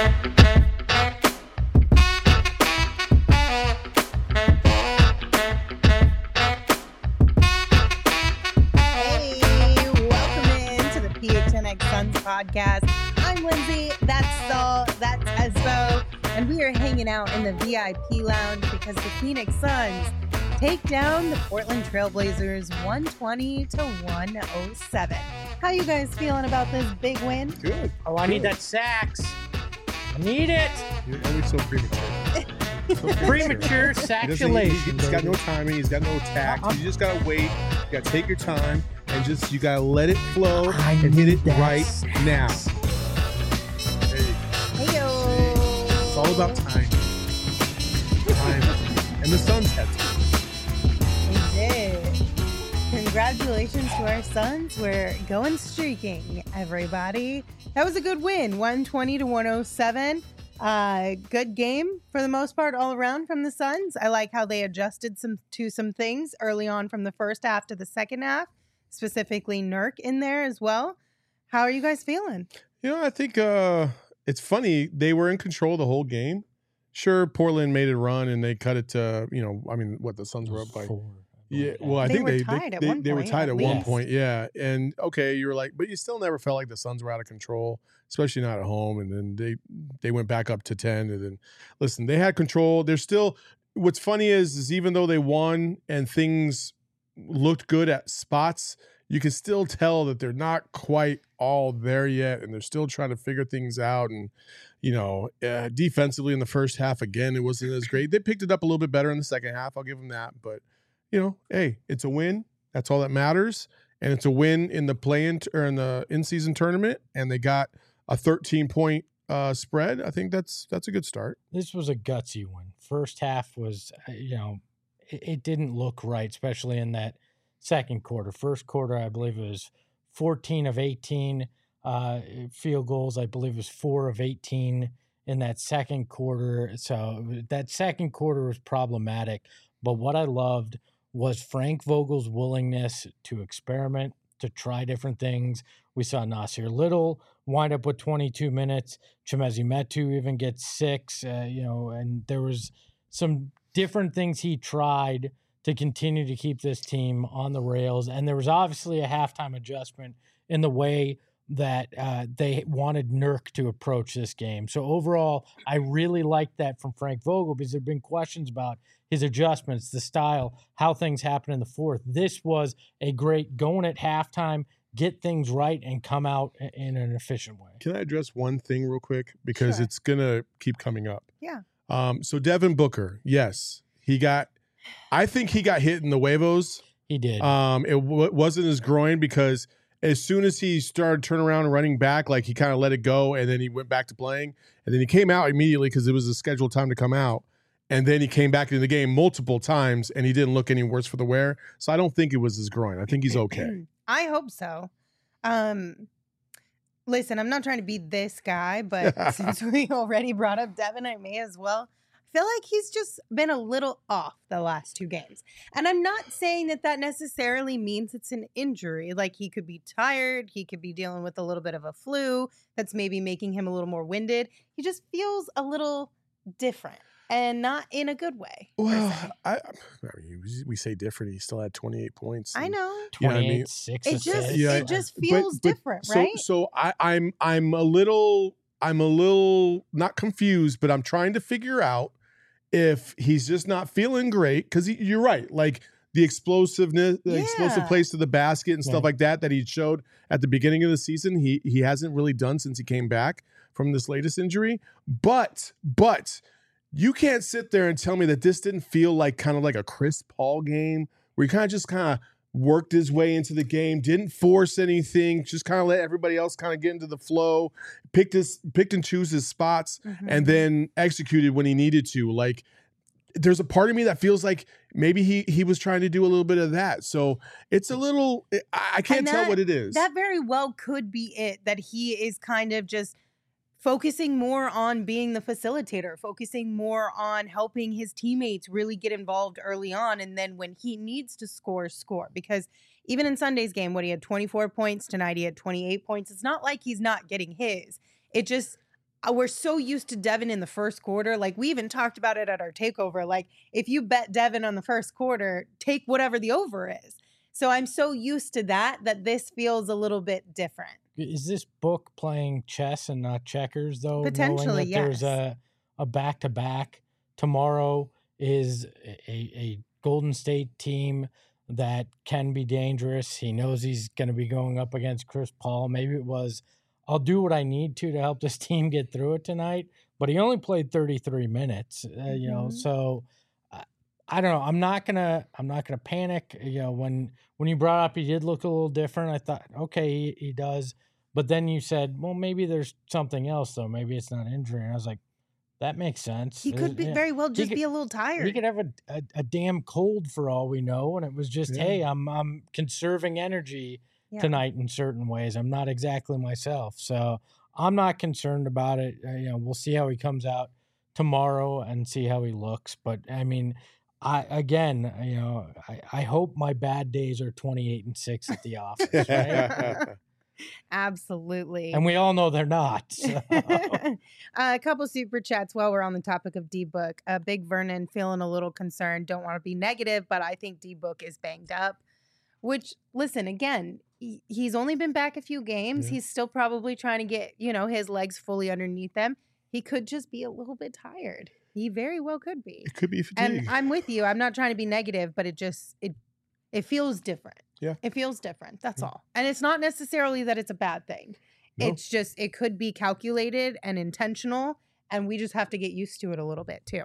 Podcast. I'm Lindsay, that's Saul, that's Espo, and we are hanging out in the VIP lounge because the Phoenix Suns take down the Portland Trailblazers 120-107. How you guys feeling about this big win? Good. Oh, I need that sax. I need it. You're always so premature. Premature saxulation. He's got no timing. He's got no tact. You just got to wait. You got to take your time and you got to let it flow and hit it right now. Hey-yo. It's all about time. And the Suns had to. They did. Congratulations to our Suns. We're going streaking, everybody. That was a good win, 120-107. Good game for the most part all around from the Suns. I like how they adjusted to some things early on from the first half to the second half, specifically Nurk in there as well. How are you guys feeling? You know, I think it's funny. They were in control the whole game. Sure, Portland made a run and they cut it to, the Suns were up by 4. Yeah, well, I think they were tied at one point. Yeah, and okay, you were like, but you still never felt like the Suns were out of control, especially not at home. And then they went back up to 10. And then, listen, they had control. They're still. What's funny is even though they won and things looked good at spots, you can still tell that they're not quite all there yet, and they're still trying to figure things out. And defensively in the first half, again, it wasn't as great. They picked it up a little bit better in the second half. I'll give them that, but. Hey, it's a win. That's all that matters. And it's a win in the play-in or in the in-season tournament. And they got a 13-point spread. I think that's a good start. This was a gutsy one. First half was, it didn't look right, especially in that second quarter. First quarter, I believe it was 14 of 18 field goals. I believe it was 4 of 18 in that second quarter. So that second quarter was problematic. But what I loved was Frank Vogel's willingness to experiment, to try different things. We saw Nasir Little wind up with 22 minutes. Chimezie Metu even gets 6, and there was some different things he tried to continue to keep this team on the rails. And there was obviously a halftime adjustment in the way that they wanted Nurk to approach this game. So overall, I really liked that from Frank Vogel because there have been questions about his adjustments, the style, how things happen in the fourth. This was a great going at halftime, get things right, and come out in an efficient way. Can I address one thing real quick? Because It's going to keep coming up. Yeah. So Devin Booker, yes, I think he got hit in the huevos. He did. It wasn't his groin because as soon as he started turning around and running back, like he kind of let it go, and then he went back to playing. And then he came out immediately because it was a scheduled time to come out. And then he came back into the game multiple times, and he didn't look any worse for the wear. So I don't think it was his groin. I think he's okay. I hope so. Listen, I'm not trying to be this guy, but since we already brought up Devin, I may as well. I feel like he's just been a little off the last 2 games. And I'm not saying that necessarily means it's an injury. Like, he could be tired. He could be dealing with a little bit of a flu that's maybe making him a little more winded. He just feels a little different. And not in a good way. Well, we say different. He still had 28 points. I know. 28, 6 assists. It just feels different, right? So I'm a little not confused, but I'm trying to figure out if he's just not feeling great. Because you're right, like the explosiveness, explosive plays to the basket and stuff like that he showed at the beginning of the season. He hasn't really done since he came back from this latest injury. But you can't sit there and tell me that this didn't feel like kind of like a Chris Paul game where he kind of worked his way into the game, didn't force anything, just kind of let everybody else kind of get into the flow, picked and choose his spots, and then executed when he needed to. Like, there's a part of me that feels like maybe he was trying to do a little bit of that. So it's a little, I can't tell what it is. That very well could be it, that he is kind of just focusing more on being the facilitator, focusing more on helping his teammates really get involved early on. And then when he needs to score. Because even in Sunday's game, he had 24 points. Tonight he had 28 points. It's not like he's not getting his. It just, we're so used to Devin in the first quarter. Like, we even talked about it at our takeover. Like, if you bet Devin on the first quarter, take whatever the over is. So I'm so used to that this feels a little bit different. Is this book playing chess and not checkers, though? Potentially, yes. There's a back-to-back. Tomorrow is a Golden State team that can be dangerous. He knows he's going to be going up against Chris Paul. Maybe it was, I'll do what I need to help this team get through it tonight. But he only played 33 minutes, you know. So I don't know. I'm not gonna panic. You know, when you brought up he did look a little different, I thought, okay, he does. But then you said, well, maybe there's something else though. Maybe it's not injury. And I was like, that makes sense. He could be very well just be a little tired. He could have a damn cold for all we know, and it was just, hey, I'm conserving energy tonight in certain ways. I'm not exactly myself, so I'm not concerned about it. You know, we'll see how he comes out tomorrow and see how he looks. But I mean, I hope my bad days are 28-6 at the office, right? Absolutely. And we all know they're not. So. A couple super chats while we're on the topic of D-Book. Big Vernon feeling a little concerned. Don't want to be negative, but I think D-Book is banged up. Which, listen, again, he's only been back a few games. Yeah. He's still probably trying to get, his legs fully underneath him. He could just be a little bit tired. He very well could be. It could be fatigue. And I'm with you. I'm not trying to be negative, but it feels different. Yeah. It feels different. That's all. And it's not necessarily that it's a bad thing. No. It's just, it could be calculated and intentional, and we just have to get used to it a little bit too.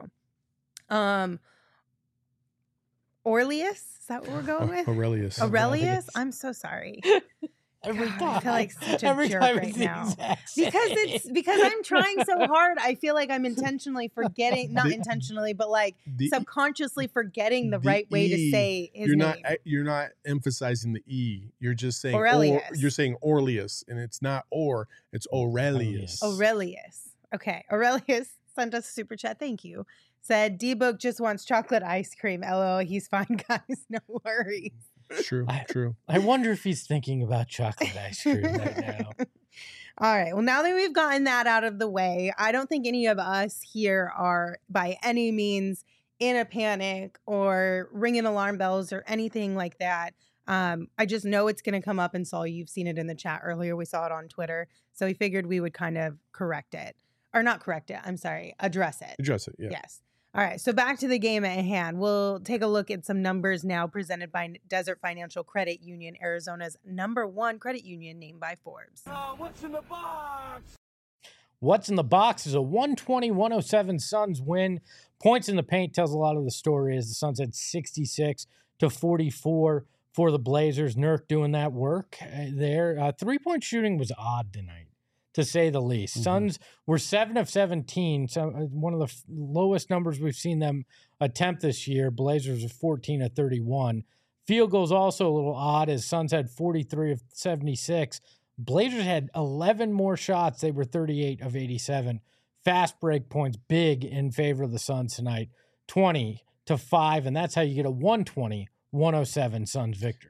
Aurelius, is that what we're going with? Aurelius. I'm so sorry. Every God, time. I feel like such a jerk right now. Because I'm trying so hard. I feel like I'm intentionally forgetting, not intentionally, but like subconsciously forgetting the right way to say his name. You're not emphasizing the E. You're just saying Aurelius. You're saying Aurelius, and it's not it's Aurelius. Aurelius. Okay. Aurelius sent us a super chat. Thank you. Said D-Book just wants chocolate ice cream. LOL. He's fine, guys. No worries. True. I wonder if he's thinking about chocolate ice cream right now. All right. Well, now that we've gotten that out of the way, I don't think any of us here are by any means in a panic or ringing alarm bells or anything like that. I just know it's going to come up, and Saul, you've seen it in the chat earlier. We saw it on Twitter. So we figured we would kind of correct it. Or not correct it. I'm sorry. Address it. Address it. Yeah. Yes. All right, so back to the game at hand. We'll take a look at some numbers now presented by Desert Financial Credit Union, Arizona's #1 credit union named by Forbes. What's in the box? What's in the box is a 120-107 Suns win. Points in the paint tells a lot of the story as the Suns had 66 to 44 for the Blazers. Nurk doing that work there. Three-point shooting was odd tonight, to say the least. Mm-hmm. Suns were 7 of 17, so one of the lowest numbers we've seen them attempt this year. Blazers are 14 of 31. Field goals also a little odd, as Suns had 43 of 76. Blazers had 11 more shots. They were 38 of 87. Fast break points big in favor of the Suns tonight, 20-5, and that's how you get a 120-107 Suns victory.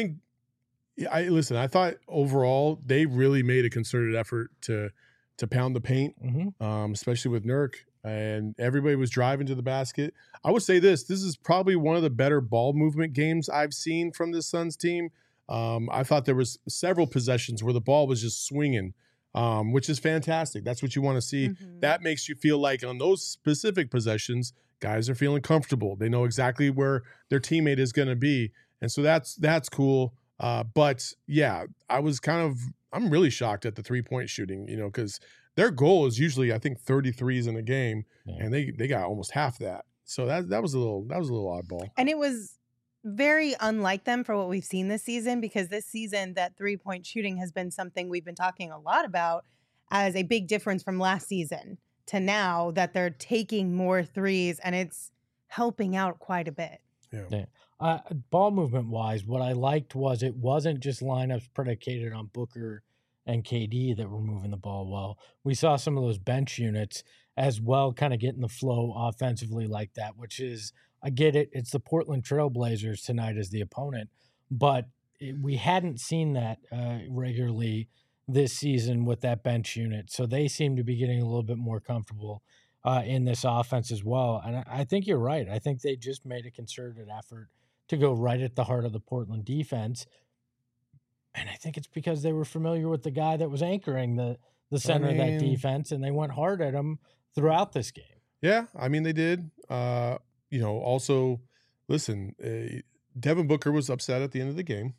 I thought overall they really made a concerted effort to pound the paint, especially with Nurk, and everybody was driving to the basket. I would say this is probably one of the better ball movement games I've seen from this Suns team. I thought there was several possessions where the ball was just swinging, which is fantastic. That's what you want to see. Mm-hmm. That makes you feel like on those specific possessions, guys are feeling comfortable. They know exactly where their teammate is going to be. And so that's cool. But yeah, I'm really shocked at the 3-point shooting, because their goal is usually, I think, 33s in a game, and they got almost half that. So that was a little oddball. And it was very unlike them for what we've seen this season, because this season that 3-point shooting has been something we've been talking a lot about as a big difference from last season to now, that they're taking more threes and it's helping out quite a bit. Yeah. Ball movement wise, what I liked was it wasn't just lineups predicated on Booker and KD that were moving the ball well. We saw some of those bench units as well kind of getting the flow offensively like that, which is, I get it, it's the Portland Trailblazers tonight as the opponent, but we hadn't seen that regularly this season with that bench unit. So they seem to be getting a little bit more comfortable in this offense as well. And I think you're right. I think they just made a concerted effort to go right at the heart of the Portland defense. And I think it's because they were familiar with the guy that was anchoring the center of that defense, and they went hard at him throughout this game. Yeah, I mean, they did. Also, listen, Devin Booker was upset at the end of the game.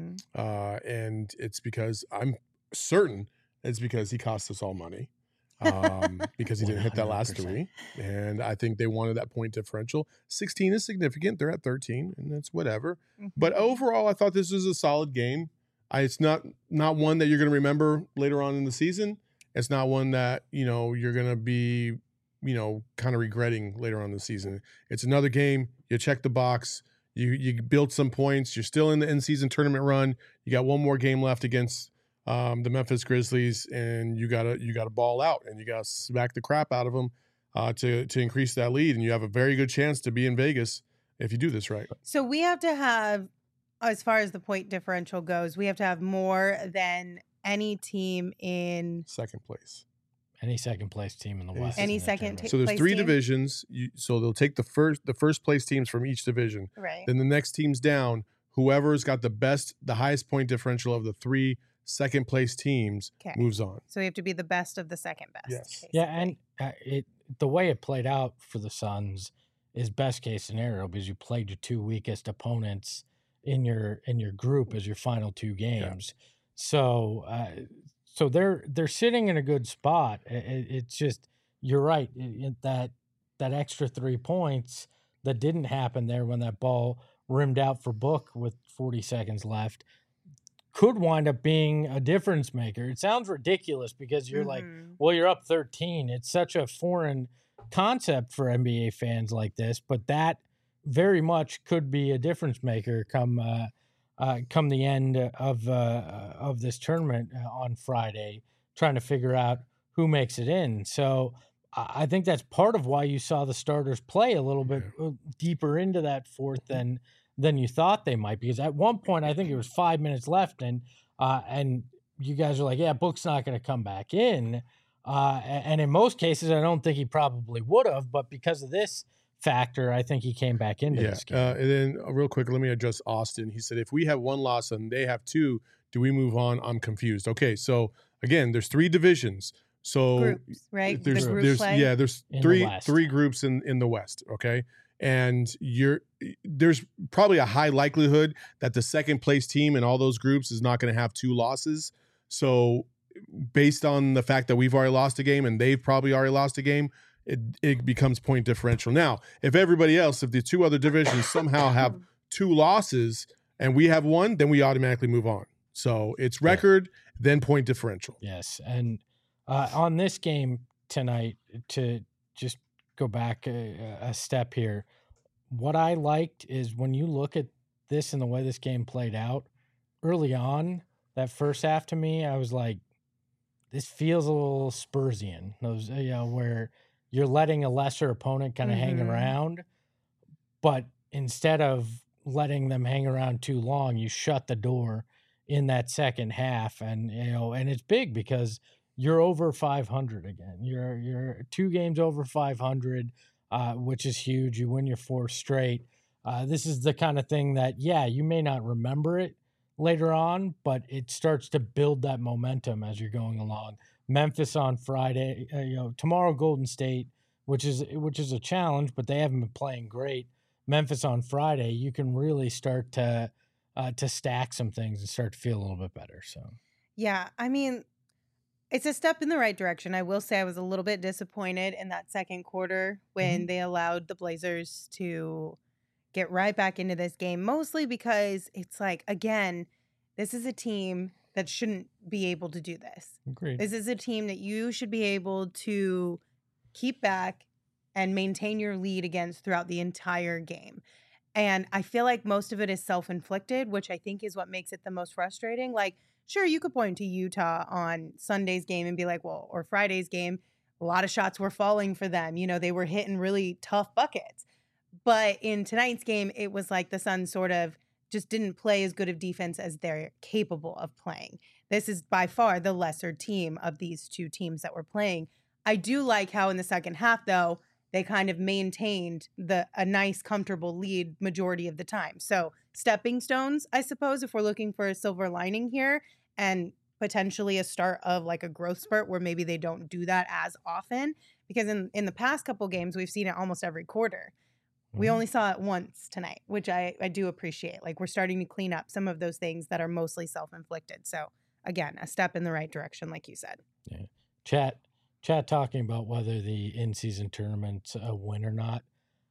And it's because I'm certain it's because he cost us all money because he didn't hit that last 3. And I think they wanted that point differential. 16 is significant. They're at 13, and that's whatever. But overall, I thought this was a solid game. It's not one that you're going to remember later on in the season. It's not one that, you're going to be, kind of regretting later on in the season. It's another game. You check the box. You build some points. You're still in the in-season tournament run. You got one more game left against the Memphis Grizzlies, and you gotta ball out, and you gotta smack the crap out of them to increase that lead. And you have a very good chance to be in Vegas if you do this right. So we have to have, as far as the point differential goes, we have to have more than any team in second place. Any second place team in the West. Any second So there's 3 divisions. So they'll take the first place teams from each division. Right. Then the next team's down. Whoever's got the highest point differential of the 3 second place teams moves on. So we have to be the best of the second best. Yes. Basically. Yeah, and the way it played out for the Suns is best case scenario because you played your 2 weakest opponents in your group as your final 2 games. Yeah. So they're sitting in a good spot. It's just, you're right, that extra 3 points that didn't happen there when that ball rimmed out for Book with 40 seconds left could wind up being a difference maker. It sounds ridiculous because you're like, well, you're up 13. It's such a foreign concept for NBA fans like this, but that very much could be a difference maker come the end of this tournament on Friday, trying to figure out who makes it in. So I think that's part of why you saw the starters play a little bit deeper into that fourth than you thought they might, because at one point I think it was 5 minutes left, and you guys are like, yeah, Book's not going to come back in, and in most cases I don't think he probably would have, but because of this factor, I think he came back into this game. And then real quick, let me address Austin. He said, if we have 1 loss and they have 2, do we move on? I'm confused. Okay, so again, there's 3 divisions. So groups, right? There's three groups in the West. Okay. And there's probably a high likelihood that the second place team in all those groups is not going to have 2 losses. So based on the fact that we've already lost a game and they've probably already lost a game, it becomes point differential. Now, if the 2 other divisions somehow have 2 losses and we have 1, then we automatically move on. So it's record, then point differential. Yes. And on this game tonight, to just go back a step here, what I liked is when you look at this and the way this game played out early on, that first half, to me, I was like, this feels a little Spursian. Those, where you're letting a lesser opponent kind of hang around, but instead of letting them hang around too long, you shut the door in that second half. And, and it's big because you're over 500 again. You're 2 games over 500, which is huge. You win your 4th straight. This is the kind of thing that, you may not remember it later on, but it starts to build that momentum as you're going along. Memphis on Friday, tomorrow Golden State, which is a challenge, but they haven't been playing great. Memphis on Friday, you can really start to stack some things and start to feel a little bit better. So yeah, I mean, it's a step in the right direction. I will say I was a little bit disappointed in that second quarter when they allowed the Blazers to get right back into this game, mostly because it's like, again, this is a team that shouldn't be able to do this. Agreed. This is a team that you should be able to keep back and maintain your lead against throughout the entire game. And I feel like most of it is self-inflicted, which I think is what makes it the most frustrating. Like, sure, you could point to Utah on Sunday's game and be like, well, or Friday's game, a lot of shots were falling for them. They were hitting really tough buckets. But in tonight's game, it was like the Suns sort of just didn't play as good of defense as they're capable of playing. this is by far the lesser team of these two teams that we're playing. I do like how in the second half, though, they kind of maintained a nice, comfortable lead majority of the time. So stepping stones, I suppose, if we're looking for a silver lining here, and potentially a start of like a growth spurt where maybe they don't do that as often. Because in the past couple games, we've seen it almost every quarter. We only saw it once tonight, which I do appreciate. Like, we're starting to clean up some of those things that are mostly self-inflicted. So, again, a step in the right direction, like you said. Yeah. Chat talking about whether the in-season tournament's a win or not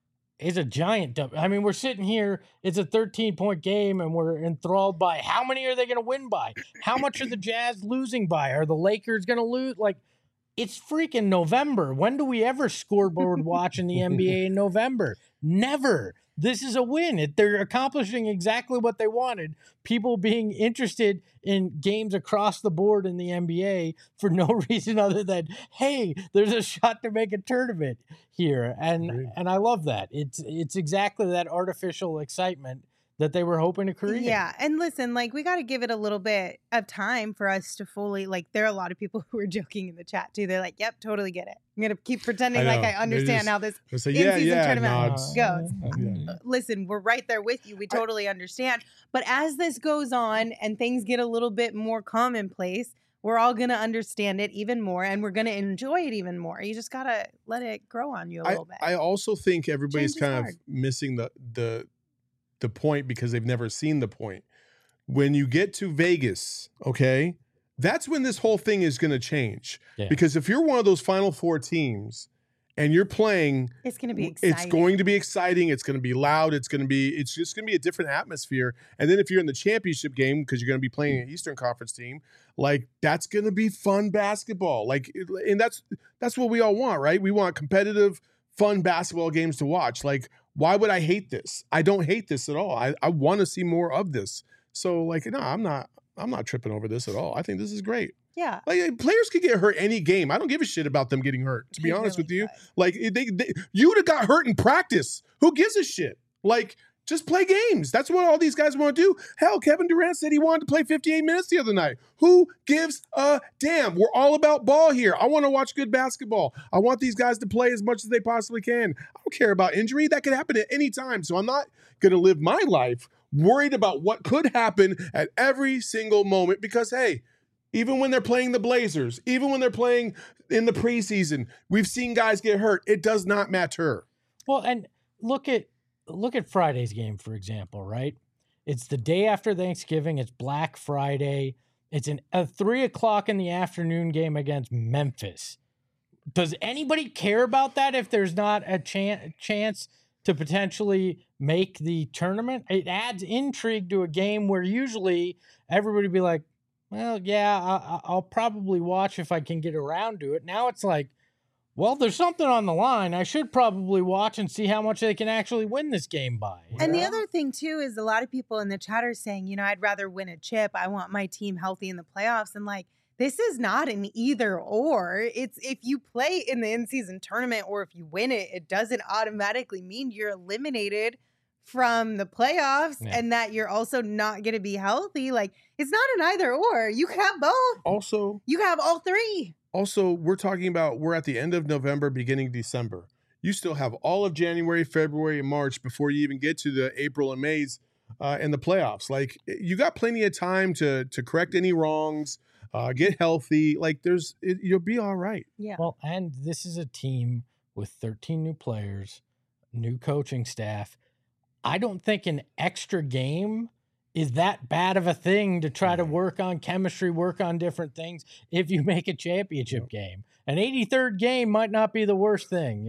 is a giant dump. I mean, we're sitting here, it's a 13-point game, and we're enthralled by how many are they going to win by? How much are the Jazz losing by? Are the Lakers going to lose? Like, it's freaking November. When do we ever scoreboard watch in the NBA in November? Never. This is a win. They're accomplishing exactly what they wanted. People being interested in games across the board in the NBA for no reason other than, hey, there's a shot to make a tournament here. And I love that. It's exactly that artificial excitement that they were hoping to create. Yeah. And listen, like, we got to give it a little bit of time for us to fully, like, there are a lot of people who are joking in the chat too. They're like, yep, totally get it. I'm going to keep pretending like I understand how this in-season tournament goes. Listen, we're right there with you. We totally understand. But as this goes on and things get a little bit more commonplace, we're all going to understand it even more, and we're going to enjoy it even more. You just got to let it grow on you a little bit. I also think everybody's kind of missing the point because they've never seen the point. When you get to Vegas, okay, that's when this whole thing is going to change. Yeah. Because if you're one of those Final Four teams and you're playing, it's going to be exciting. It's going to be exciting. It's going to be loud. It's just going to be a different atmosphere. And then if you're in the championship game, because you're going to be playing an Eastern Conference team, like, that's going to be fun basketball. Like, and that's what we all want, right? We want competitive, fun basketball games to watch. Like, why would I hate this? I don't hate this at all. I want to see more of this. So, like, no, I'm not tripping over this at all. I think this is great. Yeah. Like, players could get hurt any game. I don't give a shit about them getting hurt, to be honest with you. Like, you would have got hurt in practice. Who gives a shit? Like, just play games. That's what all these guys want to do. Hell, Kevin Durant said he wanted to play 58 minutes the other night. Who gives a damn? We're all about ball here. I want to watch good basketball. I want these guys to play as much as they possibly can. I don't care about injury. That could happen at any time. So I'm not going to live my life worried about what could happen at every single moment because, hey, even when they're playing the Blazers, even when they're playing in the preseason, we've seen guys get hurt. It does not matter. Well, and look at Friday's game, for example, right? It's the day after Thanksgiving. It's Black Friday. It's a 3:00 in the afternoon game against Memphis. Does anybody care about that if there's not a chance to potentially make the tournament? It adds intrigue to a game where usually everybody would be like, well, yeah, I'll probably watch if I can get around to it. Now it's like, well, there's something on the line. I should probably watch and see how much they can actually win this game by. And the other thing, too, is a lot of people in the chat are saying, I'd rather win a chip. I want my team healthy in the playoffs. And, like, this is not an either or. It's if you play in the in-season tournament or if you win it, it doesn't automatically mean you're eliminated from the playoffs and that you're also not going to be healthy. Like, it's not an either or. You can have both. Also, you can have all three. Also, we're talking about we're at the end of November, beginning December. You still have all of January, February, and March before you even get to the April and May's and the playoffs. Like, you got plenty of time to correct any wrongs, get healthy. Like, you'll be all right. Yeah. Well, and this is a team with 13 new players, new coaching staff. I don't think an extra game is that bad of a thing to try to work on chemistry, work on different things if you make a championship game. An 83rd game might not be the worst thing,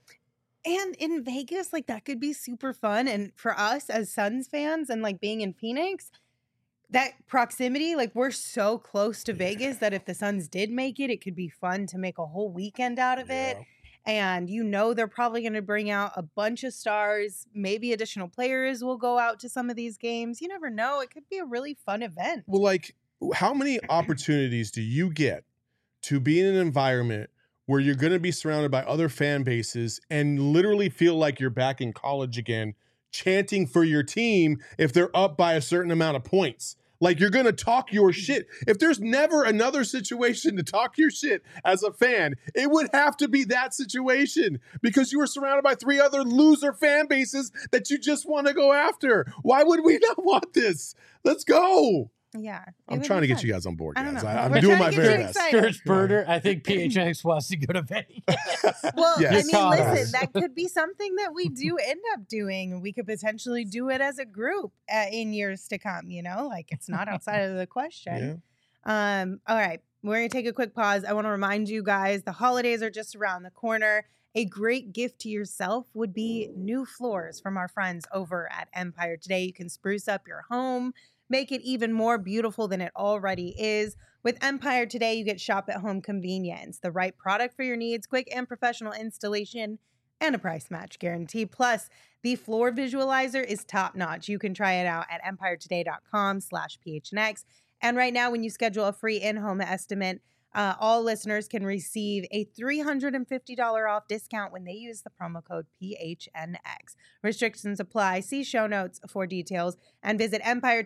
And in Vegas, like, that could be super fun. And for us as Suns fans and, like, being in Phoenix, that proximity, like, we're so close to Vegas that if the Suns did make it, it could be fun to make a whole weekend out of it. And they're probably going to bring out a bunch of stars. Maybe additional players will go out to some of these games. You never know. It could be a really fun event. Well, like, how many opportunities do you get to be in an environment where you're going to be surrounded by other fan bases and literally feel like you're back in college again, chanting for your team if they're up by a certain amount of points? Like, you're going to talk your shit. If there's never another situation to talk your shit as a fan, it would have to be that situation because you were surrounded by 3 other loser fan bases that you just want to go after. Why would we not want this? Let's go. Yeah. I'm trying to get you guys on board, guys. I'm We're doing my trying to very get you best. excited. Scourge Birder, I think PHNX wants to go to Vegas. Well, Yes. I mean, listen, that could be something that we do end up doing. We could potentially do it as a group in years to come, you know? Like, it's not outside of the question. Yeah. All right. We're going to take a quick pause. I want to remind you guys, the holidays are just around the corner. A great gift to yourself would be new floors from our friends over at Empire Today. You can spruce up your home, make it even more beautiful than it already is. With Empire Today, you get shop-at-home convenience, the right product for your needs, quick and professional installation, and a price match guarantee. Plus, the floor visualizer is top-notch. You can try it out at empiretoday.com/PHNX. And right now, when you schedule a free in-home estimate, all listeners can receive a $350 off discount when they use the promo code PHNX. Restrictions apply. See show notes for details and visit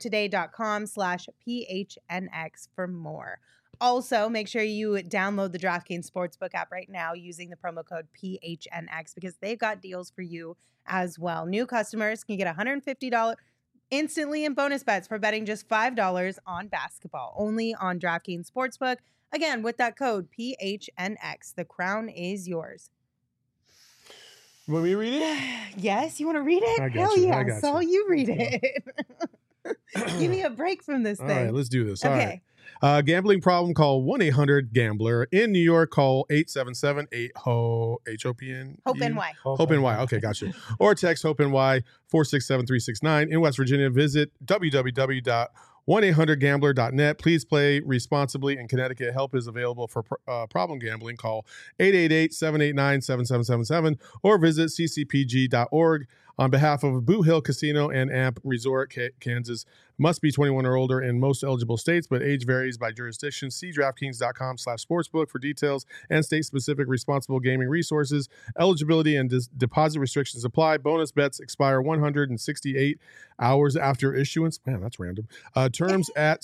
empiretoday.com/PHNX for more. Also, make sure you download the DraftKings Sportsbook app right now using the promo code PHNX because they've got deals for you as well. New customers can get $150 instantly in bonus bets for betting just $5 on basketball, only on DraftKings Sportsbook. Again, with that code PHNX, the crown is yours. Want me to read it? Yes, you want to read it? I got Hell you. yeah, I got so you read it. Give me a break from this All thing. right, let's do this. Okay. All right. Gambling problem, call 1-800-GAMBLER. In New York, call 877-8-HOPE-HOPN. Hope-NY. Hope-NY. Okay, gotcha. Or text Hope-NY 467-369. In West Virginia, visit www.1800gambler.net. Please play responsibly. In Connecticut, help is available for problem gambling. Call 888-789-7777 or visit ccpg.org. On behalf of Boot Hill Casino and Amp Resort, Kansas, must be 21 or older in most eligible states, but age varies by jurisdiction. See DraftKings.com/sportsbook for details and state-specific responsible gaming resources. Eligibility and deposit restrictions apply. Bonus bets expire 168 hours after issuance. Man, that's random. Terms at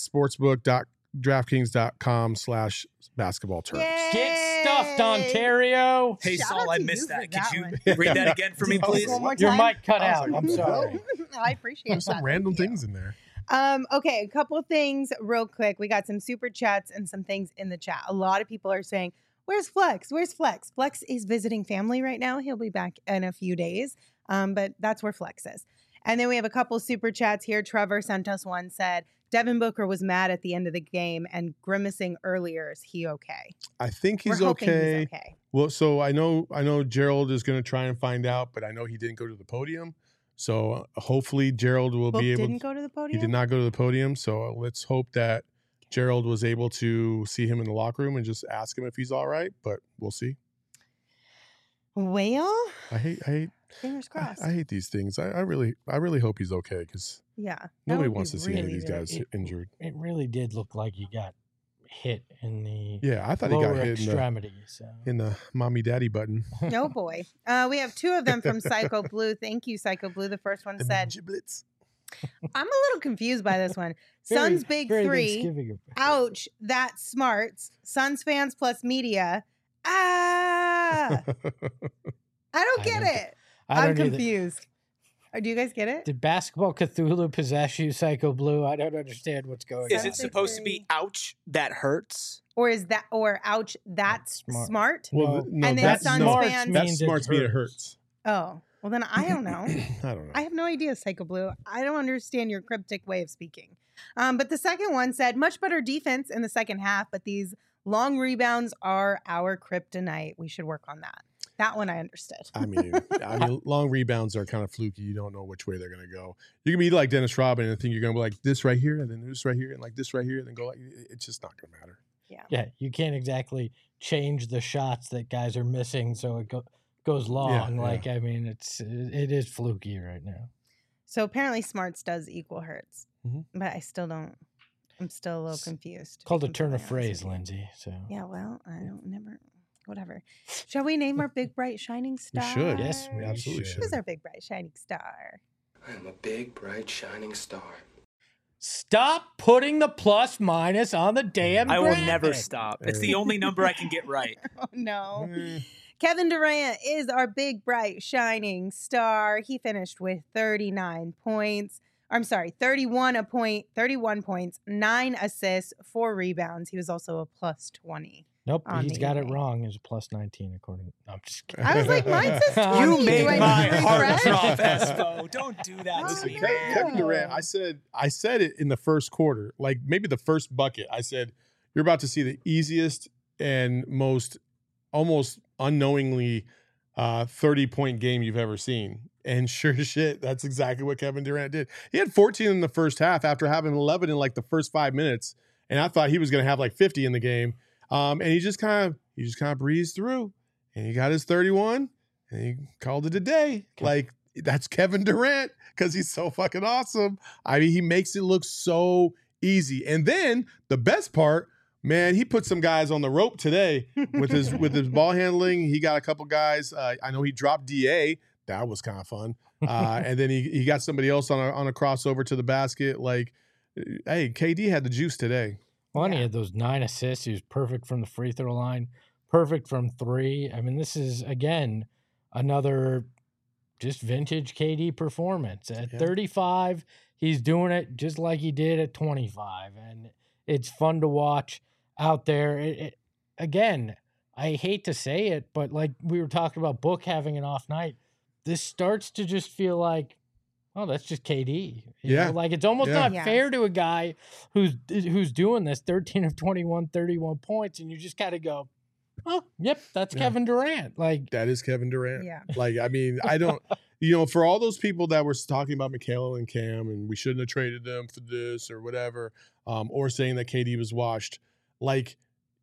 sportsbook.draftkings.com/basketball terms. Yay! Get stuffed, Ontario. Hey, Shout Saul, out I to missed you for that. that Could one. you read that again for me, please? One more Your time? mic cut out. I'm sorry. I appreciate There's some that. random Thank you. things in there. Okay, a couple of things real quick. We got some super chats and some things in the chat. A lot of people are saying, where's Flex? Where's Flex? Flex is visiting family right now. He'll be back in a few days, but that's where Flex is. And then we have a couple super chats here. Trevor sent us one, said, Devin Booker was mad at the end of the game and grimacing earlier. Is he okay? I think he's We're hoping okay. he's okay. Well, so I know Gerald is going to try and find out, but I know he didn't go to the podium. So hopefully Gerald will Book be able. didn't go to the podium? He did not go to the podium. So let's hope that Gerald was able to see him in the locker room and just ask him if he's all right. But we'll see. Well, I hate. fingers crossed. I hate these things. I really hope he's okay because Yeah. that nobody would wants be to see any of really, these really- guys injured. It really did look like he got hit in the Yeah, I thought he lower got hit extremity. in the mommy daddy button. Oh boy. We have two of them from Psycho Blue. Thank you, Psycho Blue. The first one The said, giblets. I'm a little confused by this one. Suns Big very Three. Thanksgiving. Ouch. That's smarts. Suns fans plus media. Ah. I don't get it. I'm either. confused. Do you guys get it? Did Basketball Cthulhu possess you, Psycho Blue? I don't understand what's going Is on. it supposed to be ouch, that hurts? Or is that, or ouch, that's Smart. smart? Well, no, And then that's Suns no, fans- that means smarts mean it hurts. Oh, well then I don't know. I don't know. I have no idea, Psycho Blue. I don't understand your cryptic way of speaking. But the second one said, much better defense in the second half, but these long rebounds are our kryptonite. We should work on that. That one I understood. I mean, long rebounds are kind of fluky. You don't know which way they're going to go. You can be like Dennis Rodman and think you're going to be like this right here, and then this right here, and like this right here, and then go like it's just not going to matter. Yeah, you can't exactly change the shots that guys are missing, so it goes long. Yeah. Like, I mean, it is fluky right now. So apparently smarts does equal hurts. Mhm. But I still don't. I'm still a little confused. to be Called a turn completely of honest phrase, with you. Lindsay. So Yeah, well, I don't never. Whatever. Shall we name our big bright shining We star? should. Yes, we absolutely should. should. Who's our big bright shining star? I am a big, bright, shining star. Stop putting the plus minus on the damn I will graphic. never stop. It's the only number I can get right. Oh, no. Kevin Durant is our big, bright, shining star. He finished with 31 points, 31 points, 9 assists, 4 rebounds. He was also a plus 20. Nope, he's got it wrong. It's a plus 19 according to... No, I'm just kidding. I was like, mine says 20. You made my heart refresh? drop, Espo. Don't do that. Listen, to me. Kevin Durant, I said it in the first quarter, like maybe the first bucket. I said, you're about to see the easiest and most almost unknowingly 30-point game you've ever seen. And sure as shit, that's exactly what Kevin Durant did. He had 14 in the first half after having 11 in like the first 5 minutes. And I thought he was going to have like 50 in the game. And he just kind of breezed through, and he got his 31, and he called it a day. Like, that's Kevin Durant because he's so fucking awesome. I mean, he makes it look so easy. And then the best part, man, he put some guys on the rope today with his ball handling. He got a couple guys. I know he dropped DA. That was kind of fun. And then he got somebody else on a crossover to the basket. Like, hey, KD had the juice today. Well, and he had those 9 assists. He was perfect from the free throw line, perfect from 3. I mean, this is, again, another just vintage KD performance. At 35, he's doing it just like he did at 25. And it's fun to watch out there. Again, I hate to say it, but like we were talking about Book having an off night, this starts to just feel like, oh, that's just KD. You know? Like, it's almost not fair to a guy who's doing this, 13 of 21, 31 points, and you just got to go, oh, yep, that's Kevin Durant. Like, that is Kevin Durant. Yeah. Like, I mean, I don't, for all those people that were talking about Mikal and Cam and we shouldn't have traded them for this or whatever, or saying that KD was washed, like,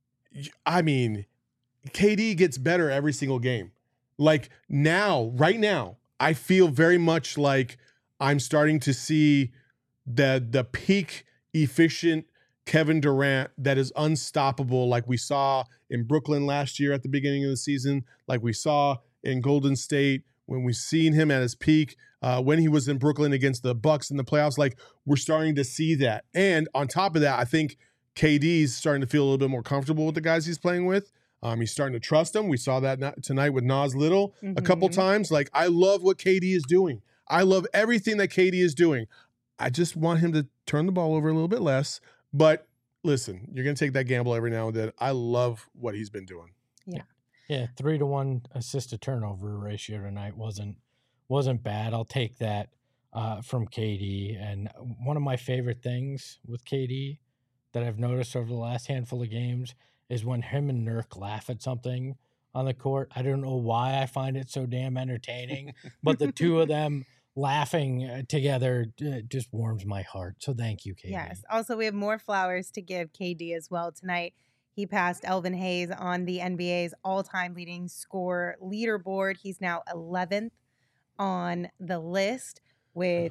I mean, KD gets better every single game. Like, right now, I feel very much like I'm starting to see the peak efficient Kevin Durant that is unstoppable, like we saw in Brooklyn last year at the beginning of the season, like we saw in Golden State when we seen him at his peak, when he was in Brooklyn against the Bucks in the playoffs. Like, we're starting to see that. And on top of that, I think KD's starting to feel a little bit more comfortable with the guys he's playing with. He's starting to trust them. We saw that tonight with Nas Little a couple times. Like, I love what KD is doing. I love everything that KD is doing. I just want him to turn the ball over a little bit less. But listen, you're going to take that gamble every now and then. I love what he's been doing. Yeah. Yeah, 3-to-1 assist to turnover ratio tonight wasn't bad. I'll take that from KD. And one of my favorite things with KD that I've noticed over the last handful of games is when him and Nurk laugh at something on the court. I don't know why I find it so damn entertaining, but the two of them laughing together just warms my heart. So thank you, KD. Yes. Also, we have more flowers to give KD as well tonight. He passed Elvin Hayes on the NBA's all-time leading scorer leaderboard. He's now 11th on the list with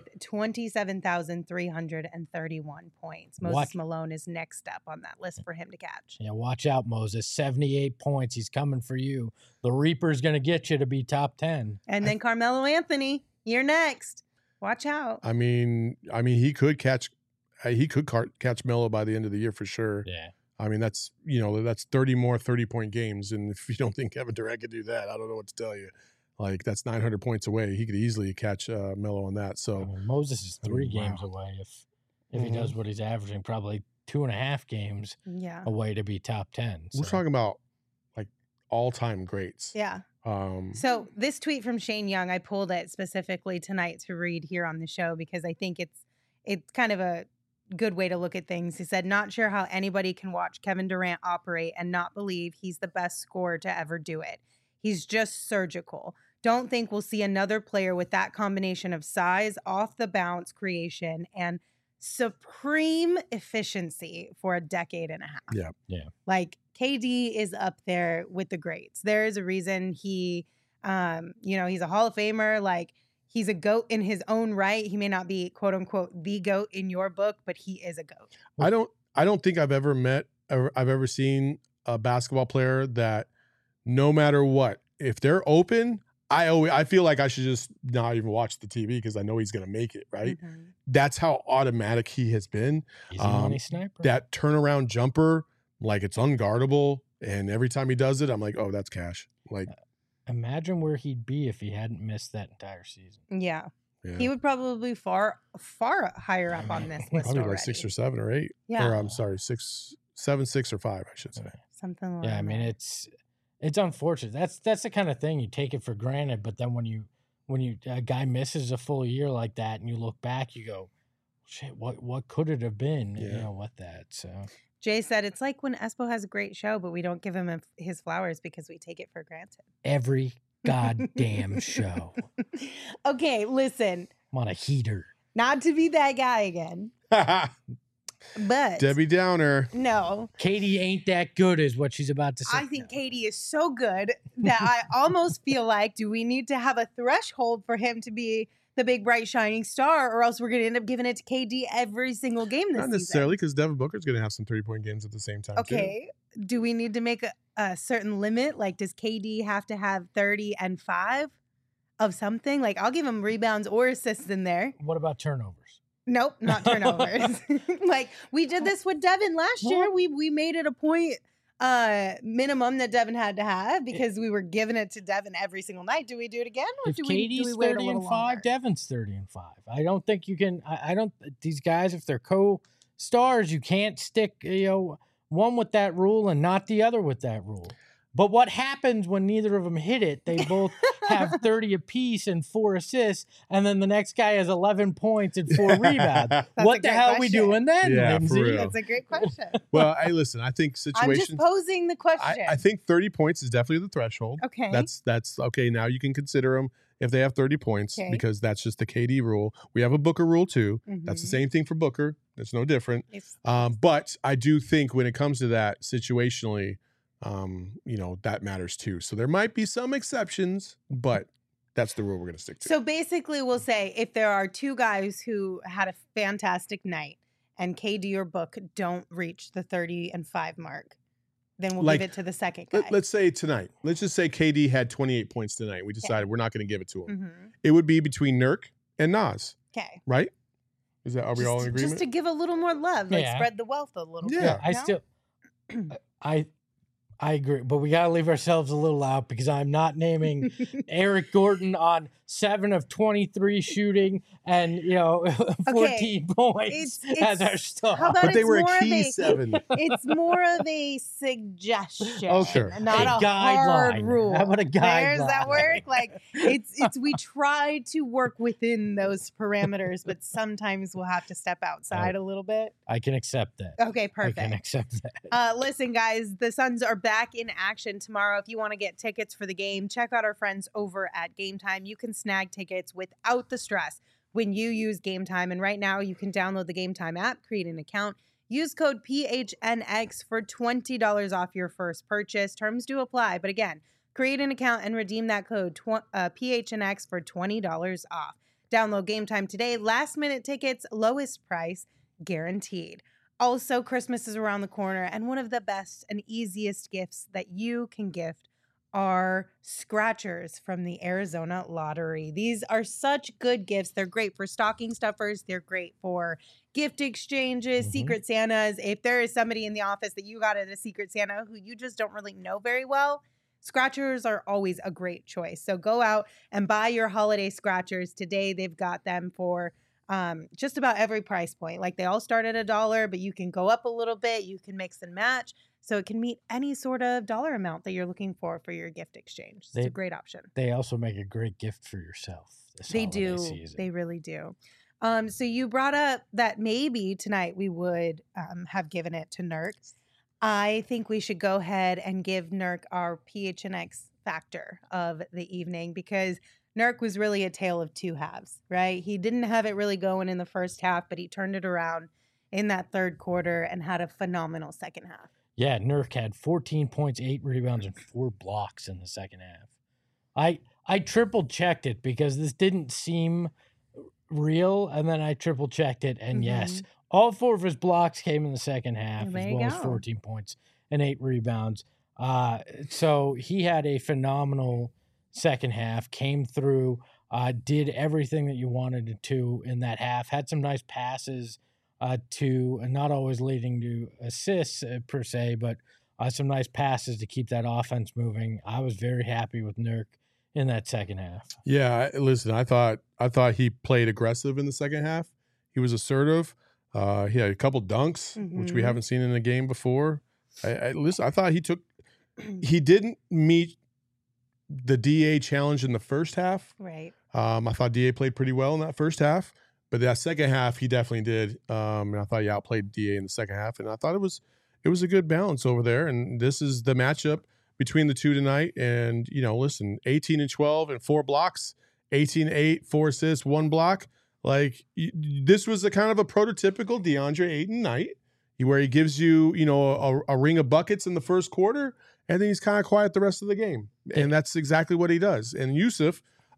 27,331 points. Moses Malone is next up on that list for him to catch. Yeah, watch out, Moses. 78 points. He's coming for you. The Reaper's going to get you to be top 10. And then Carmelo Anthony, you're next. Watch out. I mean, he could catch Melo by the end of the year for sure. Yeah. I mean, that's 30 more 30-point games. And if you don't think Kevin Durant could do that, I don't know what to tell you. Like, that's 900 points away. He could easily catch Melo on that. So Moses is 3 games away if he does what he's averaging, probably 2.5 games away to be top 10. So. We're talking about like all-time greats. Yeah. So this tweet from Shane Young, I pulled it specifically tonight to read here on the show because I think it's kind of a good way to look at things. He said, "Not sure how anybody can watch Kevin Durant operate and not believe he's the best scorer to ever do it. He's just surgical. Don't think we'll see another player with that combination of size, off the bounce creation, and supreme efficiency for a decade and a half." Yeah. Yeah. Like, KD is up there with the greats. There is a reason he, he's a Hall of Famer. Like, he's a GOAT in his own right. He may not be, quote unquote, the GOAT in your book, but he is a GOAT. I don't think I've ever seen a basketball player that no matter what, if they're open, I feel like I should just not even watch the TV because I know he's going to make it, right? Mm-hmm. That's how automatic he has been. He's a money sniper. That turnaround jumper, like it's unguardable. And every time he does it, I'm like, oh, that's cash. Like, imagine where he'd be if he hadn't missed that entire season. Yeah. He would probably be far higher up on this list probably already. like 6 or 7 or 8. Yeah. Or I'm sorry, 7, 6 or 5, I should say. Something like that. Yeah, I mean, it's unfortunate. That's the kind of thing you take it for granted, but then when a guy misses a full year like that and you look back, you go, shit, what could it have been? Yeah. With that. So Jay said it's like when Espo has a great show, but we don't give him his flowers because we take it for granted. Every goddamn show. Okay, listen. I'm on a heater. Not to be that guy again, but Debbie Downer. No. Katie ain't that good is what she's about to say. I think Katie is so good that I almost feel like, do we need to have a threshold for him to be the big, bright, shining star, or else we're going to end up giving it to KD every single game this season? Not necessarily, because Devin Booker's going to have some 30-point games at the same time, Okay. Do we need to make a certain limit? Like, does KD have to have 30 and 5 of something? Like, I'll give him rebounds or assists in there. What about turnovers? Nope, not turnovers. Like, we did this with Devin last year. We made it a point minimum that Devin had to have because we were giving it to Devin every single night. Do we do it again? Or if do Katie's we wait 30 a little and 5, longer? Devin's 30 and 5. I don't think you can. I don't. These guys, if they're co-stars, you can't stick one with that rule and not the other with that rule. But what happens when neither of them hit it? They both have 30 apiece and 4 assists, and then the next guy has 11 points and 4 rebounds. What the hell are we doing then, Lindsay? For real. That's a great question. Well, hey, listen, I think situations. I'm just posing the question. I think 30 points is definitely the threshold. Okay. That's okay. Now you can consider them if they have 30 points because that's just the KD rule. We have a Booker rule too. Mm-hmm. That's the same thing for Booker. It's no different. But I do think when it comes to that situationally, that matters too. So there might be some exceptions, but that's the rule we're going to stick to. So basically, we'll say if there are two guys who had a fantastic night and KD or Book don't reach the 30 and 5 mark, then we'll give it to the second guy. Let's say tonight. Let's just say KD had 28 points tonight. We decided we're not going to give it to him. Mm-hmm. It would be between Nurk and Nas. Okay. Right? Are we all in agreement? Just to give a little more love, like spread the wealth a little bit. Yeah, I agree, but we got to leave ourselves a little out because I'm not naming Eric Gordon on 7 of 23 shooting and 14 points as our star. But they were a key 7. It's more of a suggestion, not a a hard guideline. rule. How about a guideline? Does that work? Like it's we try to work within those parameters, but sometimes we'll have to step outside a little bit. I can accept that. Okay, perfect. I can accept that. Listen, guys, the Suns are back in action tomorrow. If you want to get tickets for the game, check out our friends over at Game Time. You can snag tickets without the stress when you use Game Time. And right now, you can download the Game Time app, create an account, use code PHNX for $20 off your first purchase. Terms do apply. But again, create an account and redeem that code PHNX for $20 off. Download Game Time today. Last minute tickets, lowest price guaranteed. Also, Christmas is around the corner, and one of the best and easiest gifts that you can gift are scratchers from the Arizona Lottery. These are such good gifts. They're great for stocking stuffers. They're great for gift exchanges, Secret Santas. If there is somebody in the office that you got at a Secret Santa who you just don't really know very well, scratchers are always a great choice. So go out and buy your holiday scratchers today. They've got them for just about every price point. Like they all start at $1, but you can go up a little bit. You can mix and match. So it can meet any sort of dollar amount that you're looking for your gift exchange. It's a great option. They also make a great gift for yourself. They do. Season. They really do. So you brought up that maybe tonight we would have given it to Nurk. I think we should go ahead and give Nurk our PHNX factor of the evening because Nurk was really a tale of two halves, right? He didn't have it really going in the first half, but he turned it around in that third quarter and had a phenomenal second half. Yeah, Nurk had 14 points, 8 rebounds, and 4 blocks in the second half. I triple checked it because this didn't seem real, and then I triple checked it, and yes, all 4 of his blocks came in the second half, as well as 14 points and 8 rebounds. So he had a phenomenal second half, came through, did everything that you wanted to in that half, had some nice passes to not always leading to assists per se, but some nice passes to keep that offense moving. I was very happy with Nurk in that second half. Yeah, listen, I thought he played aggressive in the second half. He was assertive. He had a couple dunks, which we haven't seen in a game before. I thought he didn't meet the DA challenge in the first half. Right. I thought DA played pretty well in that first half, but that second half he definitely did. And I thought he outplayed DA in the second half, and I thought it was a good balance over there. And this is the matchup between the two tonight. And, listen, 18-12 and 4 blocks, 18-8, 4 assists, 1 block. Like, this was a kind of a prototypical DeAndre Ayton night where he gives you, a ring of buckets in the first quarter, and then he's kind of quiet the rest of the game. And that's exactly what he does. And Yusuf,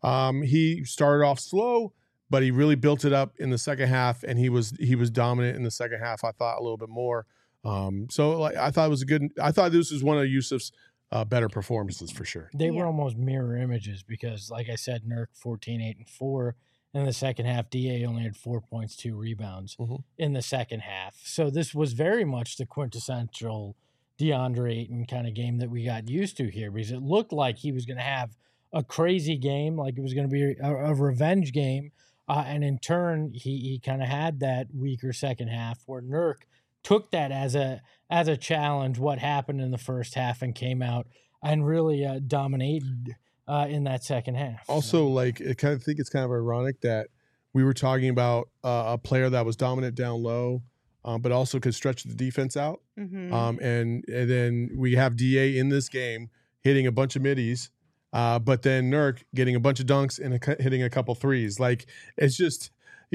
he started off slow, but he really built it up in the second half, and he was dominant in the second half, I thought, a little bit more. So I thought this was one of Yusuf's better performances for sure. They were almost mirror images because, like I said, Nurk 14, 8, and 4 in the second half. DA only had 4 points, 2 rebounds in the second half. So this was very much the quintessential DeAndre Ayton kind of game that we got used to here, because it looked like he was going to have a crazy game, like it was going to be a revenge game. And in turn, he kind of had that weaker second half where Nurk took that as a challenge, what happened in the first half, and came out and really dominated in that second half. Also, I think it's kind of ironic that we were talking about a player that was dominant down low, but also could stretch the defense out. And then we have DA in this game hitting a bunch of middies, but then Nurk getting a bunch of dunks and hitting a couple threes. Like, it's just,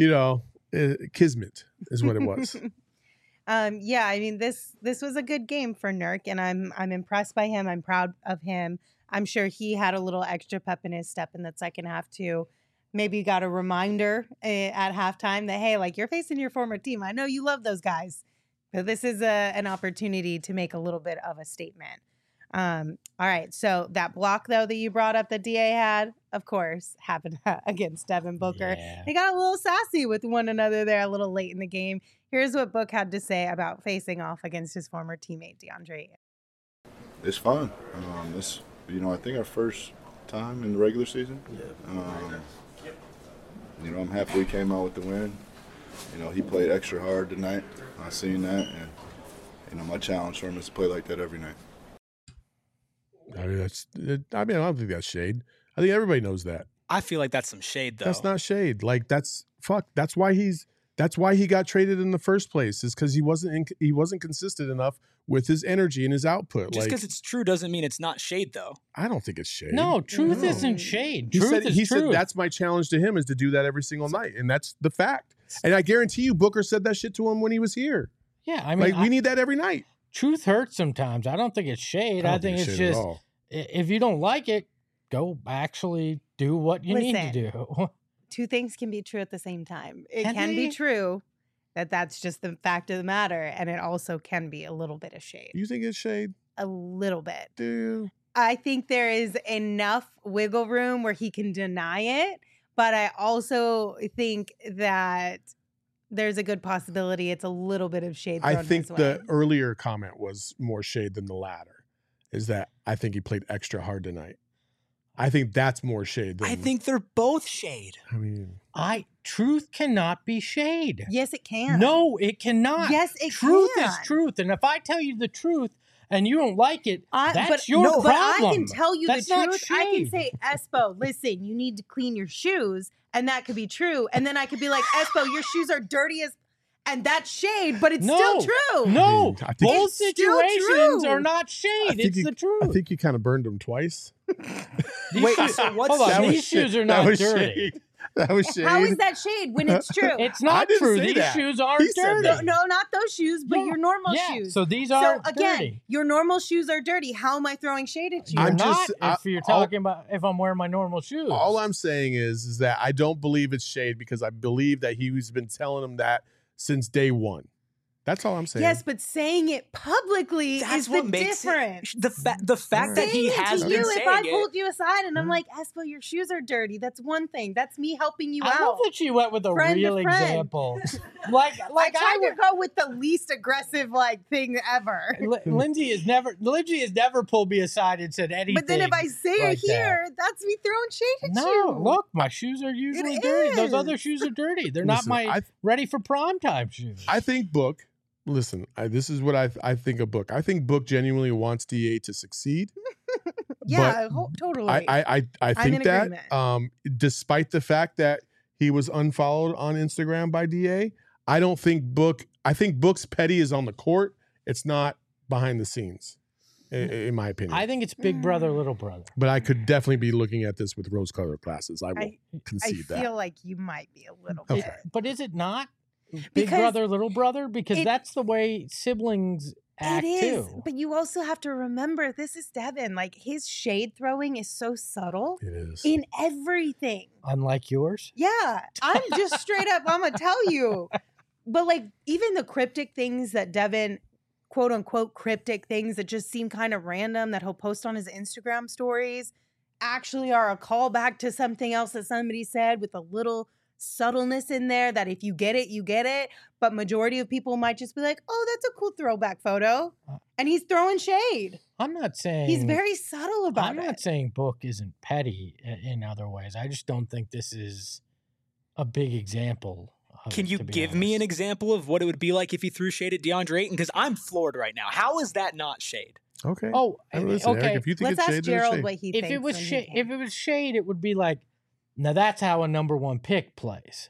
kismet is what it was. Yeah, I mean, this was a good game for Nurk, and I'm impressed by him. I'm proud of him. I'm sure he had a little extra pep in his step in that second half too. Maybe got a reminder at halftime that, hey, like, you're facing your former team. I know you love those guys, but this is an opportunity to make a little bit of a statement. All right, so that block, though, that you brought up that DA had, of course, happened against Devin Booker. Yeah. They got a little sassy with one another there a little late in the game. Here's what Book had to say about facing off against his former teammate, DeAndre. It's fun. I think our first time in the regular season. I'm happy we came out with the win. He played extra hard tonight. I seen that, and my challenge for him is to play like that every night. I don't think that's shade. I think everybody knows that. I feel like that's some shade, though. That's not shade. Like, that's why he got traded in the first place, is because he wasn't consistent enough with his energy and his output. Just because it's true doesn't mean it's not shade, though. I don't think it's shade. No, truth isn't shade. He said that's my challenge to him, is to do that every single night, and that's the fact. And I guarantee you, Booker said that shit to him when he was here. Yeah, I mean, we need that every night. Truth hurts sometimes. I don't think it's shade. I think it's just, if you don't like it, go actually do what you need to do. Two things can be true at the same time. It can be true that's just the fact of the matter, and it also can be a little bit of shade. You think it's shade? A little bit. Do you? I think there is enough wiggle room where he can deny it, but I also think that there's a good possibility it's a little bit of shade thrown I think his way. the earlier comment was more shade than the latter, is that I think he played extra hard tonight. I think that's more shade than... I think they're both shade. I mean... Truth cannot be shade. Yes, it can. No, it cannot. Yes, it Truth can. is truth. And if I tell you the truth and you don't like it, that's your problem. But I can tell you that's the truth. Not I can shade. say, Espo, listen, you need to clean your shoes. And that could be true. And then I could be like, Espo, your shoes are dirty as... And that's shade, but it's still true. No, I think both situations true. are not shade. It's the truth. I think you kind of burned him twice. Wait, so what's hold on, That was these shade. shoes are That not was dirty. shade. That was shade. How is that shade when it's true? It's I not didn't true. say These that. shoes aren't He said dirty. that. No, not those shoes, but your normal shoes. So these are again, dirty. your normal shoes are dirty. How am I throwing shade at you? You're I'm not just- if you're talking about if I'm wearing my normal shoes. All I'm saying is that I don't believe it's shade, because I believe that he's been telling him that since day one. That's all I'm saying. Yes, but saying it publicly is the difference. The fact that he has been saying if I pulled you aside and I'm like, Espo, your shoes are dirty, that's one thing. That's me helping you out. I love that she went with a real example. like I tried to go with the least aggressive thing ever. Lindsay has never pulled me aside and said anything. But then if I say it here, that's me throwing shade at you. No, look, my shoes are usually dirty. Those other shoes are dirty. They're not my ready for prime time shoes. I think Book. Listen, this is what I think of Book. I think Book genuinely wants DA to succeed. Yeah, totally. I think that despite the fact that he was unfollowed on Instagram by DA, I don't think Book. I think Book's petty is on the court. It's not behind the scenes, in my opinion. I think it's big brother, little brother. But I could definitely be looking at this with rose-colored glasses. I will concede that. I feel like you might be a little bit. But is it not? Big brother, little brother? Because that's the way siblings act too. But you also have to remember, this is Devin. His shade throwing is so subtle. It is. In everything. Unlike yours? Yeah. I'm just straight up, I'm going to tell you. But even the cryptic things that Devin, quote unquote, cryptic things that just seem kind of random that he'll post on his Instagram stories actually are a callback to something else that somebody said with a little subtleness in there that if you get it, you get it. But majority of people might just be like, oh, that's a cool throwback photo. And he's throwing shade. I'm not saying... He's very subtle about it. I'm not saying Book isn't petty in other ways. I just don't think this is a big example. Can you give me an example of what it would be like if he threw shade at DeAndre Ayton? Because I'm floored right now. How is that not shade? Okay. Oh, listen, okay. Eric, if you think Let's it's ask shade, Gerald what he if thinks. If it was shade, it would be like, now that's how a number one pick plays.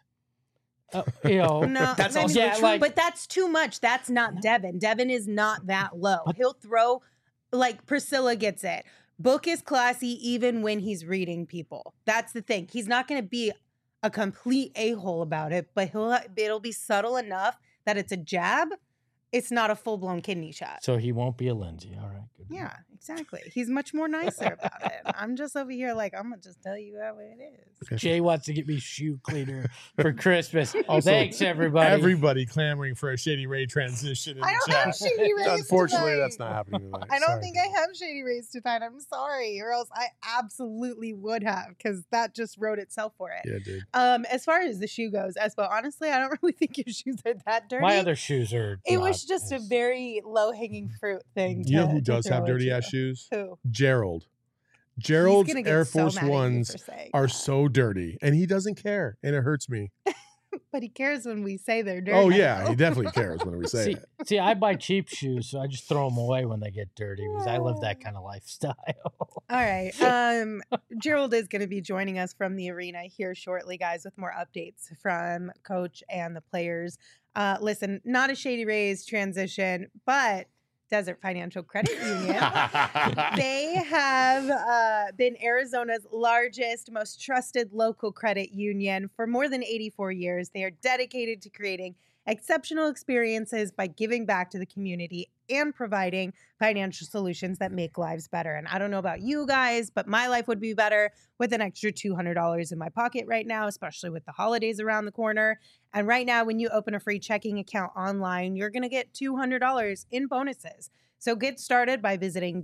No, that's also true, but that's too much. That's not Devin. Devin is not that low. He'll throw, Priscilla gets it. Book is classy even when he's reading people. That's the thing. He's not going to be a complete a-hole about it, but it'll be subtle enough that it's a jab. It's not a full-blown kidney shot. So he won't be a Lindsay. All right. Good. Yeah, exactly. He's much more nicer about it. I'm just over here I'm going to just tell you how it is. Jay wants to get me shoe cleaner for Christmas. Thanks, everybody. Everybody clamoring for a Shady Ray transition in I don't the chat. have Shady Rays Unfortunately, tonight. that's not happening tonight. I don't think I have Shady Rays tonight. I'm sorry. Or else I absolutely would have, because that just wrote itself for it. Yeah, dude. As far as the shoe goes, Espo, honestly, I don't really think your shoes are that dirty. My other shoes are... It was just a very low-hanging fruit thing. You know who does have dirty-ass shoes? Who? Gerald. Gerald's Air Force Ones are so dirty, and he doesn't care, and it hurts me. But he cares when we say they're dirty. Oh, yeah, he definitely cares when we say it. See, I buy cheap shoes, so I just throw them away when they get dirty because I live that kind of lifestyle. All right. Gerald is going to be joining us from the arena here shortly, guys, with more updates from Coach and the players. Listen, not a Shady Rays transition, but Desert Financial Credit Union. They have been Arizona's largest, most trusted local credit union for more than 84 years. They are dedicated to creating exceptional experiences by giving back to the community and providing financial solutions that make lives better. And I don't know about you guys, but my life would be better with an extra $200 in my pocket right now, especially with the holidays around the corner. And right now, when you open a free checking account online, you're going to get $200 in bonuses. So get started by visiting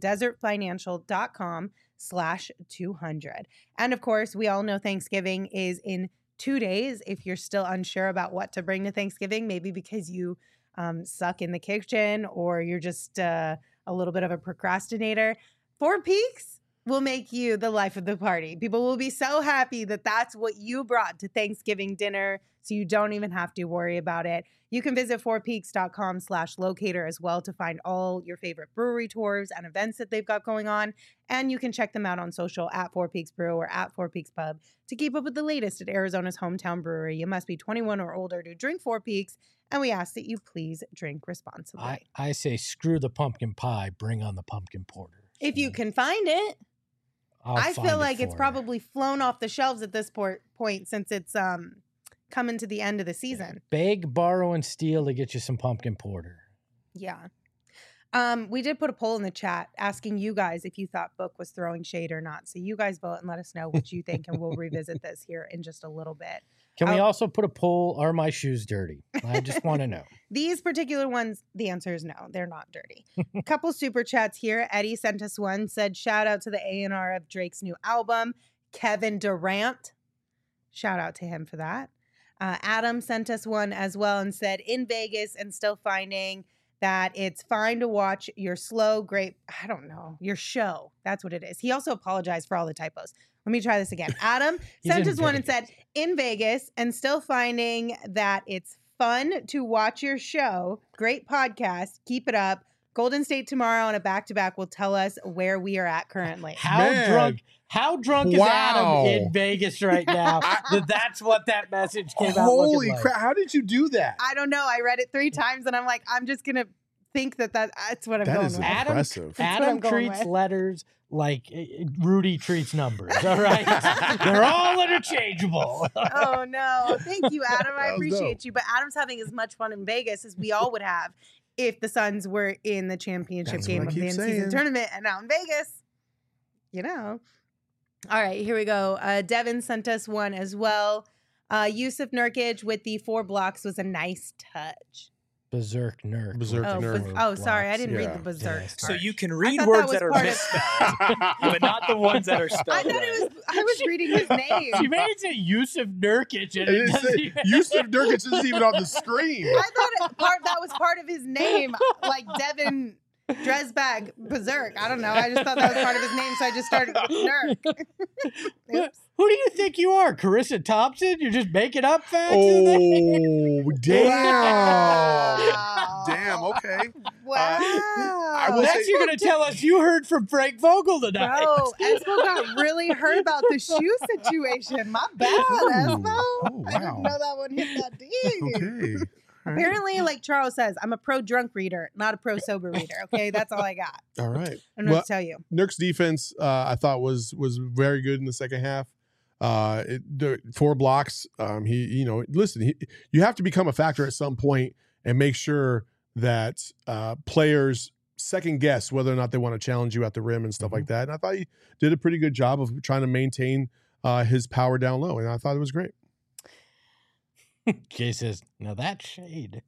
desertfinancial.com/200. And of course, we all know Thanksgiving is in 2 days. If you're still unsure about what to bring to Thanksgiving, maybe because you suck in the kitchen or you're just a little bit of a procrastinator, Four Peaks will make you the life of the party. People will be so happy that that's what you brought to Thanksgiving dinner, so you don't even have to worry about it. You can visit fourpeaks.com/locator as well to find all your favorite brewery tours and events that they've got going on. And you can check them out on social at Four Peaks Brew or at Four Peaks Pub to keep up with the latest at Arizona's hometown brewery. You must be 21 or older to drink Four Peaks, and we ask that you please drink responsibly. I say screw the pumpkin pie, bring on the pumpkin porter. If you can find it. I feel like it's probably flown off the shelves at this point since it's coming to the end of the season. Beg, borrow, and steal to get you some pumpkin porter. Yeah. We did put a poll in the chat asking you guys if you thought Book was throwing shade or not. So you guys vote and let us know what you think, and we'll revisit this here in just a little bit. Can we also put a poll, are my shoes dirty? I just want to know. These particular ones, the answer is no, they're not dirty. A couple super chats here. Eddie sent us one, said, shout out to the A&R of Drake's new album, Kevin Durant. Shout out to him for that. Adam sent us one as well and said, in Vegas and still finding that it's fine to watch your your show. That's what it is. He also apologized for all the typos. Let me try this again. Adam sent us one and said, in Vegas and still finding that it's fun to watch your show. Great podcast. Keep it up. Golden State tomorrow on a back-to-back will tell us where we are at currently. How drunk is Adam in Vegas right now? That's what that message came out Holy like. crap. How did you do that? I don't know. I read it 3 times and I'm like, I'm just going to think that's what I'm going with. Adam treats letters like Rudy treats numbers, all right? They're all interchangeable. Oh, no. Thank you, Adam. I appreciate you. But Adam's having as much fun in Vegas as we all would have if the Suns were in the championship game of the in-season tournament and out in Vegas. You know. All right, here we go. Devin sent us one as well. Yusuf Nurkic with the 4 blocks was a nice touch. Berserk Nurk. Sorry, I didn't read the Berserk. Yeah. So you can read words that are misspelled, but not the ones that are spelled. I was reading his name. You made it say Yusuf Nurkic. Yusuf Nurkic isn't even on the screen. I thought that was part of his name, like Devin Dresbag Berserk. I don't know. I just thought that was part of his name, so I just started with Nurk. Oops. Who do you think you are, Carissa Thompson? You're just making up facts? Oh, damn. Wow. Damn, okay. Wow. Next you're going to tell us you heard from Frank Vogel tonight. Bro, Espo got really hurt about the shoe situation. My bad, Espo. Wow. I didn't know that one hit that deep. Okay. Apparently, like Charles says, I'm a pro drunk reader, not a pro sober reader. Okay, that's all I got. All right. I don't know what to tell you. Nurk's defense, I thought was very good in the second half. 4 blocks. You have to become a factor at some point and make sure that players second guess whether or not they want to challenge you at the rim and stuff like that. And I thought he did a pretty good job of trying to maintain his power down low, and I thought it was great. Jay says, now that's shade.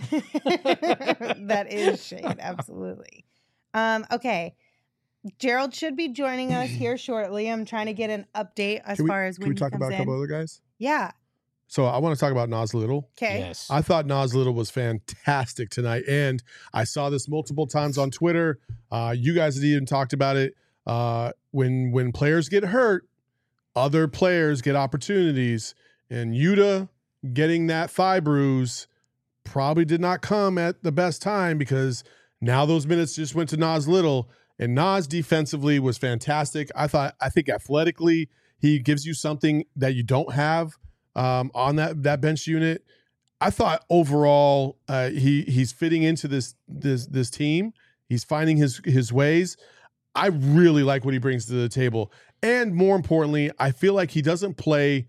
That is shade, absolutely. Okay. Gerald should be joining us here shortly. I'm trying to get an update as far as when he comes in. Can we talk about a couple other guys? Yeah. So I want to talk about Nas Little. Okay. Yes. I thought Nas Little was fantastic tonight, and I saw this multiple times on Twitter. You guys had even talked about it. When players get hurt, other players get opportunities, and Yuta getting that thigh bruise probably did not come at the best time because now those minutes just went to Nas Little, and Nas defensively was fantastic. I think athletically he gives you something that you don't have on that bench unit. I thought overall he's fitting into this team. He's finding his ways. I really like what he brings to the table, and more importantly, I feel like he doesn't play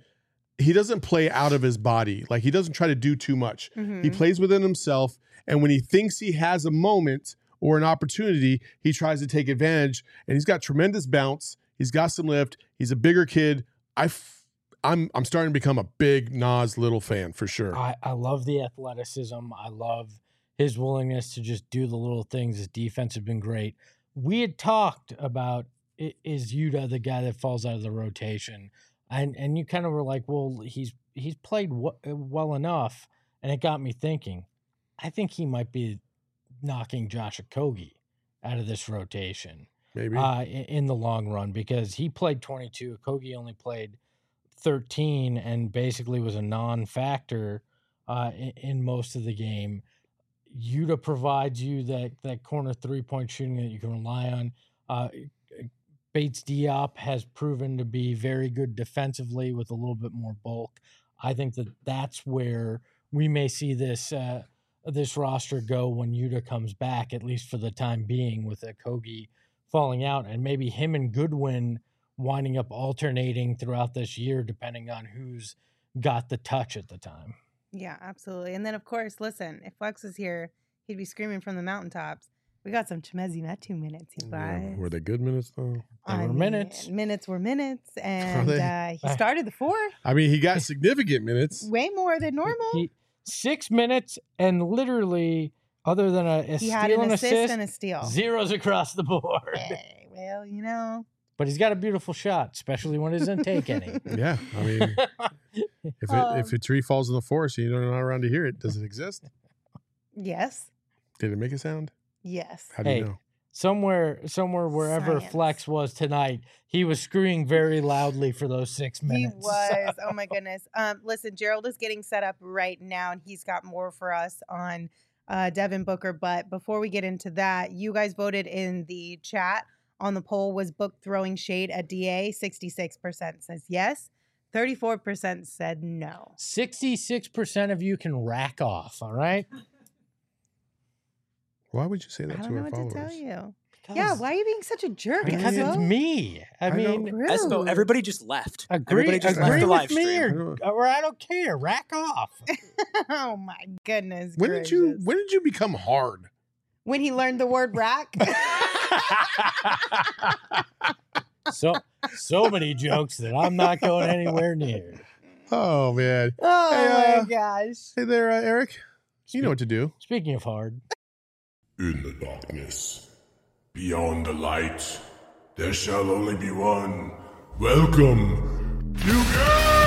out of his body. Like, he doesn't try to do too much. Mm-hmm. He plays within himself. And when he thinks he has a moment or an opportunity, he tries to take advantage. And he's got tremendous bounce. He's got some lift. He's a bigger kid. I'm starting to become a big Nas Little fan for sure. I love the athleticism. I love his willingness to just do the little things. His defense has been great. We had talked about, is Yuta the guy that falls out of the rotation? And you kind of were like, well, he's played well enough, and it got me thinking. I think he might be knocking Josh Okogie out of this rotation, maybe in the long run, because he played 22. Okogie only played 13, and basically was a non-factor in most of the game. Yuta provides you that corner 3-point shooting that you can rely on. Bates Diop has proven to be very good defensively with a little bit more bulk. I think that's where we may see this roster go when Yuta comes back, at least for the time being, with Okogie falling out, and maybe him and Goodwin winding up alternating throughout this year, depending on who's got the touch at the time. Yeah, absolutely. And then, of course, listen, if Flex was here, he'd be screaming from the mountaintops. We got some Chimezie Metu minutes, you guys. Yeah. Were they good minutes, though? They were minutes. Minutes were minutes, and he started the fourth. I mean, he got significant minutes. Way more than normal. 6 minutes, and literally, other than a he steal had an and assist and a steal. Zeros across the board. Hey, well, you know. But he's got a beautiful shot, especially when he doesn't take any. Yeah, I mean, if a tree falls in the forest and you're not around to hear it, does it exist? Yes. Did it make a sound? Yes. How do you know? Somewhere wherever Science. Flex was tonight, he was screaming very loudly for those 6 minutes. He was. Oh my goodness. Listen, Gerald is getting set up right now, and he's got more for us on Devin Booker. But before we get into that, you guys voted in the chat on the poll. Was Book throwing shade at DA? 66% says yes. 34% said no. 66% of you can rack off, all right? Why would you say that I to don't know our what followers? to tell you. Yeah, why are you being such a jerk? Because Espo? it's me. I mean, Espo, everybody just left. Agree Everybody just left the with live me stream. or I don't care. Rack off. Oh my goodness. When did you become hard? When he learned the word rack. So many jokes that I'm not going anywhere near. Oh man. Oh my gosh. Hey there, Eric. You know what to do. Speaking of hard. In the darkness, beyond the light, there shall only be one. Welcome to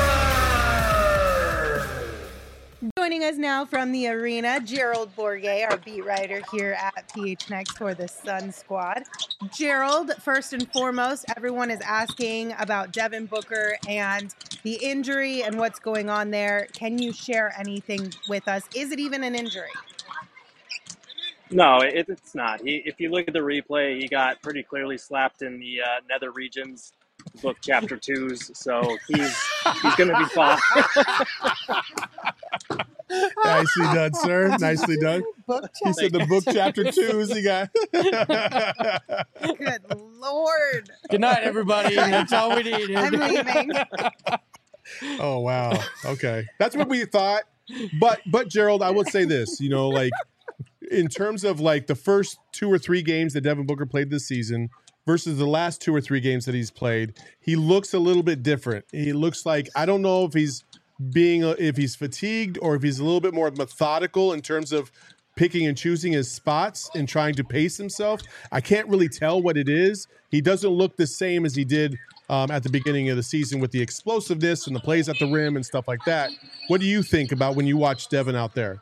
Joining us now from the arena, Gerald Bourguet, our beat writer here at PHNX for the Sun Squad. Gerald, first and foremost, everyone is asking about Devin Booker and the injury and what's going on there. Can you share anything with us? Is it even an injury? No, it's not. If you look at the replay, he got pretty clearly slapped in the nether regions, book chapter 2s, so he's going to be fine. Nicely done, sir. Nicely done. He said the book chapter 2s he got. Good Lord. Good night, everybody. That's all we needed. I'm leaving. Oh, wow. Okay. That's what we thought. But Gerald, I would say this, like in terms of like the first 2 or 3 games that Devin Booker played this season versus the last 2 or 3 games that he's played, he looks a little bit different. He looks like, I don't know if he's fatigued or if he's a little bit more methodical in terms of picking and choosing his spots and trying to pace himself. I can't really tell what it is. He doesn't look the same as he did at the beginning of the season with the explosiveness and the plays at the rim and stuff like that. What do you think about when you watch Devin out there?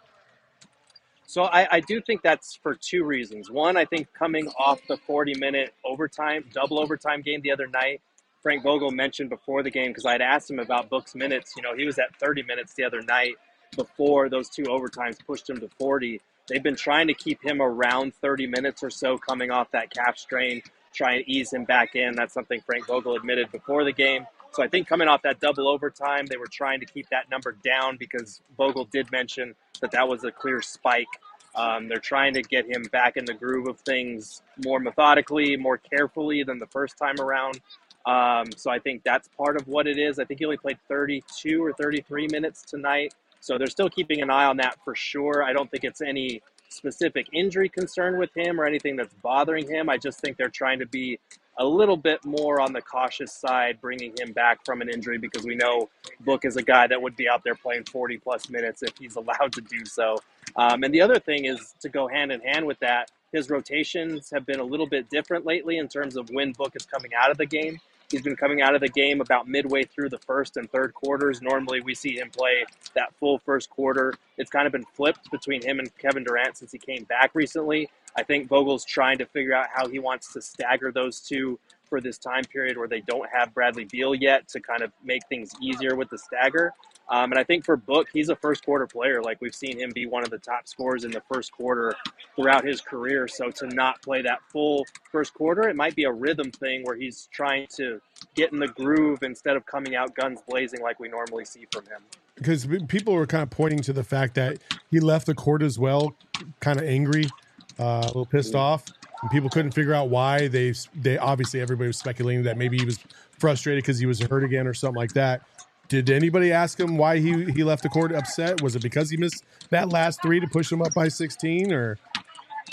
So I do think that's for 2 reasons. One, I think coming off the 40-minute double overtime game the other night, Frank Vogel mentioned before the game, because I had asked him about Book's minutes. He was at 30 minutes the other night before those 2 overtimes pushed him to 40. They've been trying to keep him around 30 minutes or so coming off that calf strain, try and ease him back in. That's something Frank Vogel admitted before the game. So I think coming off that double overtime, they were trying to keep that number down because Vogel did mention that was a clear spike. They're trying to get him back in the groove of things more methodically, more carefully than the first time around. So I think that's part of what it is. I think he only played 32 or 33 minutes tonight. So they're still keeping an eye on that for sure. I don't think it's any specific injury concern with him or anything that's bothering him. I just think they're trying to be a little bit more on the cautious side, bringing him back from an injury, because we know Book is a guy that would be out there playing 40 plus minutes if he's allowed to do so. And the other thing is, to go hand in hand with that, his rotations have been a little bit different lately in terms of when Book is coming out of the game. He's been coming out of the game about midway through the first and third quarters. Normally we see him play that full first quarter. It's kind of been flipped between him and Kevin Durant since he came back recently. I think Vogel's trying to figure out how he wants to stagger those two for this time period where they don't have Bradley Beal yet, to kind of make things easier with the stagger. And I think for Book, he's a first quarter player. Like, we've seen him be one of the top scorers in the first quarter throughout his career. So to not play that full first quarter, it might be a rhythm thing where he's trying to get in the groove instead of coming out guns blazing like we normally see from him. Because people were kind of pointing to the fact that he left the court as well, kind of angry, a little pissed off. And people couldn't figure out why. They obviously, everybody was speculating that maybe he was frustrated because he was hurt again or something like that. Did anybody ask him why he left the court upset? Was it because he missed that last 3 to push him up by 16? Or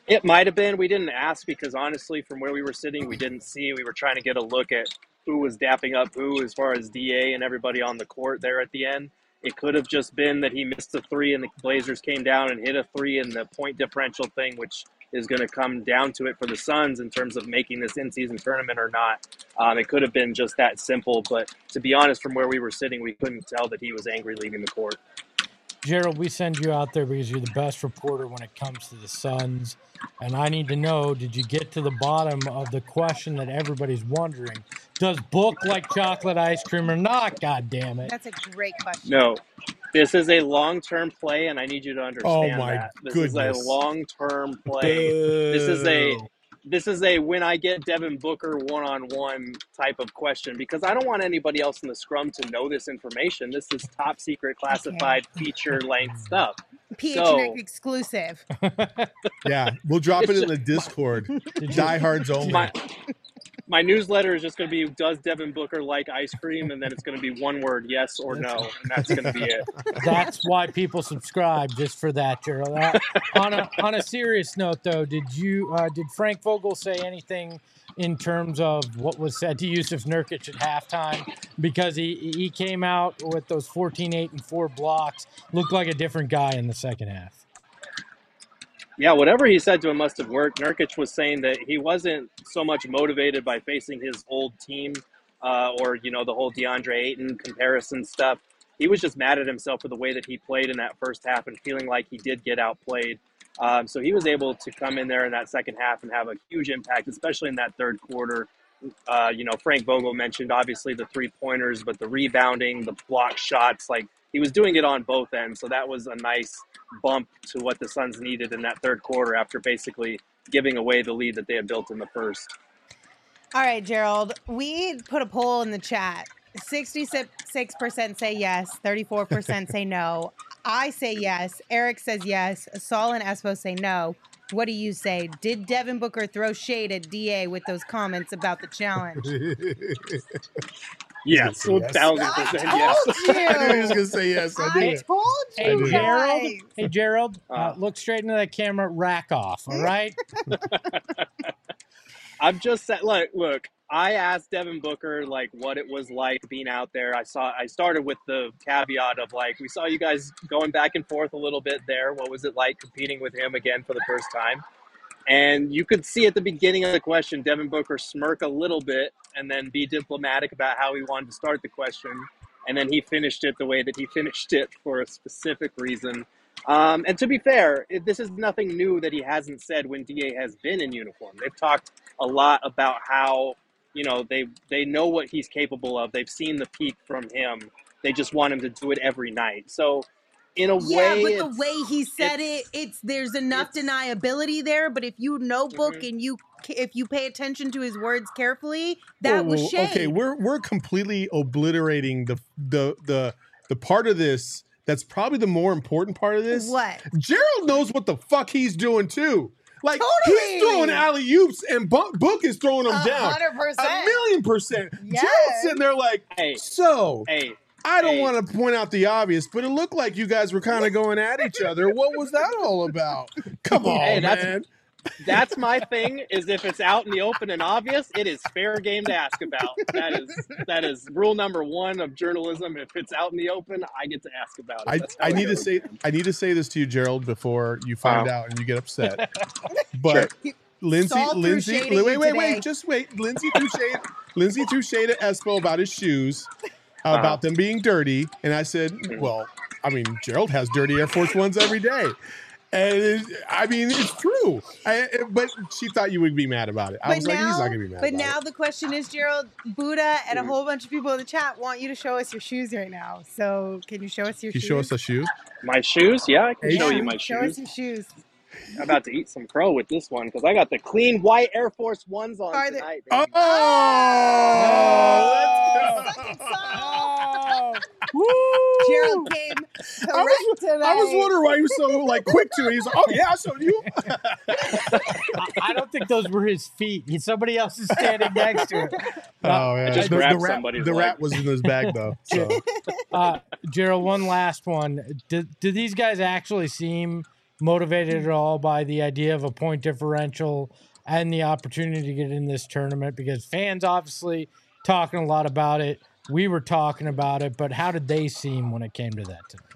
It might have been. We didn't ask because honestly, from where we were sitting, we didn't see. We were trying to get a look at who was dapping up who as far as DA and everybody on the court there at the end. It could have just been that he missed a three and the Blazers came down and hit a three in the point differential thing, which is going to come down to it for the Suns in terms of making this in-season tournament or not. It could have been just that simple. But to be honest, from where we were sitting, we couldn't tell that he was angry leaving the court. Gerald, we send you out there because you're the best reporter when it comes to the Suns. And I need to know, did you get to the bottom of the question that everybody's wondering? Does Book like chocolate ice cream or not? God damn it. That's a great question. No. This is a long-term play, and I need you to understand that. This goodness. is a long-term play. This is a when I get Devin Booker one-on-one type of question because I don't want anybody else in the scrum to know this information. This is top secret classified feature-length stuff. PHNX exclusive. Yeah, we'll drop it in the Discord. Diehards only. My newsletter is just going to be, does Devin Booker like ice cream? And then it's going to be one word, yes or no. And that's going to be it. That's why people subscribe, just for that, Gerald. On a serious note, though, did Frank Vogel say anything in terms of what was said to Yusuf Nurkic at halftime? Because he came out with those 14, 8, and 4 blocks, looked like a different guy in the second half. Yeah, whatever he said to him must have worked. Nurkic was saying that he wasn't so much motivated by facing his old team or, the whole DeAndre Ayton comparison stuff. He was just mad at himself for the way that he played in that first half and feeling like he did get outplayed. So he was able to come in there in that second half and have a huge impact, especially in that third quarter. Frank Vogel mentioned, obviously, the three-pointers, but the rebounding, the block shots, he was doing it on both ends. So that was a nice bump to what the Suns needed in that third quarter after basically giving away the lead that they had built in the first. All right, Gerald, we put a poll in the chat. 66% say yes, 34% say no. I say yes. Eric says yes. Saul and Espo say no. What do you say? Did Devin Booker throw shade at DA with those comments about the challenge? Yes, 1,000% yes. I knew he was going to say yes. I told you. Hey, Gerald, look straight into that camera. Rack off, all right? I'm just saying, look, I asked Devin Booker, what it was like being out there. I started with the caveat of, we saw you guys going back and forth a little bit there. What was it like competing with him again for the first time? And you could see at the beginning of the question, Devin Booker smirk a little bit and then be diplomatic about how he wanted to start the question. And then he finished it the way that he finished it for a specific reason. And to be fair, this is nothing new that he hasn't said when DA has been in uniform. They've talked a lot about how, they know what he's capable of. They've seen the peak from him. They just want him to do it every night. So in a way, but the way he said there's enough deniability there. But if you know Book and if you pay attention to his words carefully, that was shade. Okay, we're completely obliterating the part of this that's probably the more important part of this. What? Gerald knows what the fuck he's doing too. Totally. He's throwing alley-oops and Book is throwing them down. 100%. 1,000,000%. Yes. Gerald's sitting there I don't want to point out the obvious, but it looked like you guys were kind of going at each other. What was that all about? Come on, man. That's my thing, is if it's out in the open and obvious, it is fair game to ask about. That is rule number one of journalism. If it's out in the open, I get to ask about it. I need to say this to you, Gerald, before you find out and you get upset. But sure. Lindsay, wait, just wait. Lindsay threw shade at Espo about his shoes, about them being dirty, and I said, well, Gerald has dirty Air Force Ones every day. And it's true. But she thought you would be mad about it. I was like, he's not going to be mad about it. But now the question is, Gerald, Buddha and a whole bunch of people in the chat want you to show us your shoes right now. So can you show us your shoes? Can you show us a shoe? My shoes? Yeah, I can show you my shoes. Show us your shoes. I'm about to eat some crow with this one because I got the clean white Air Force Ones on tonight. Baby. Let's go. Woo! Gerald came correct today. I was wondering why he was so quick to it. He's like, oh yeah, I showed you. I don't think those were his feet. Somebody else is standing next to it. Oh yeah, just grabbed somebody's the rat was in his bag though. So. Gerald, one last one. Do these guys actually seem motivated at all by the idea of a point differential and the opportunity to get in this tournament? Because fans obviously talking a lot about it. We were talking about it, but how did they seem when it came to that tonight?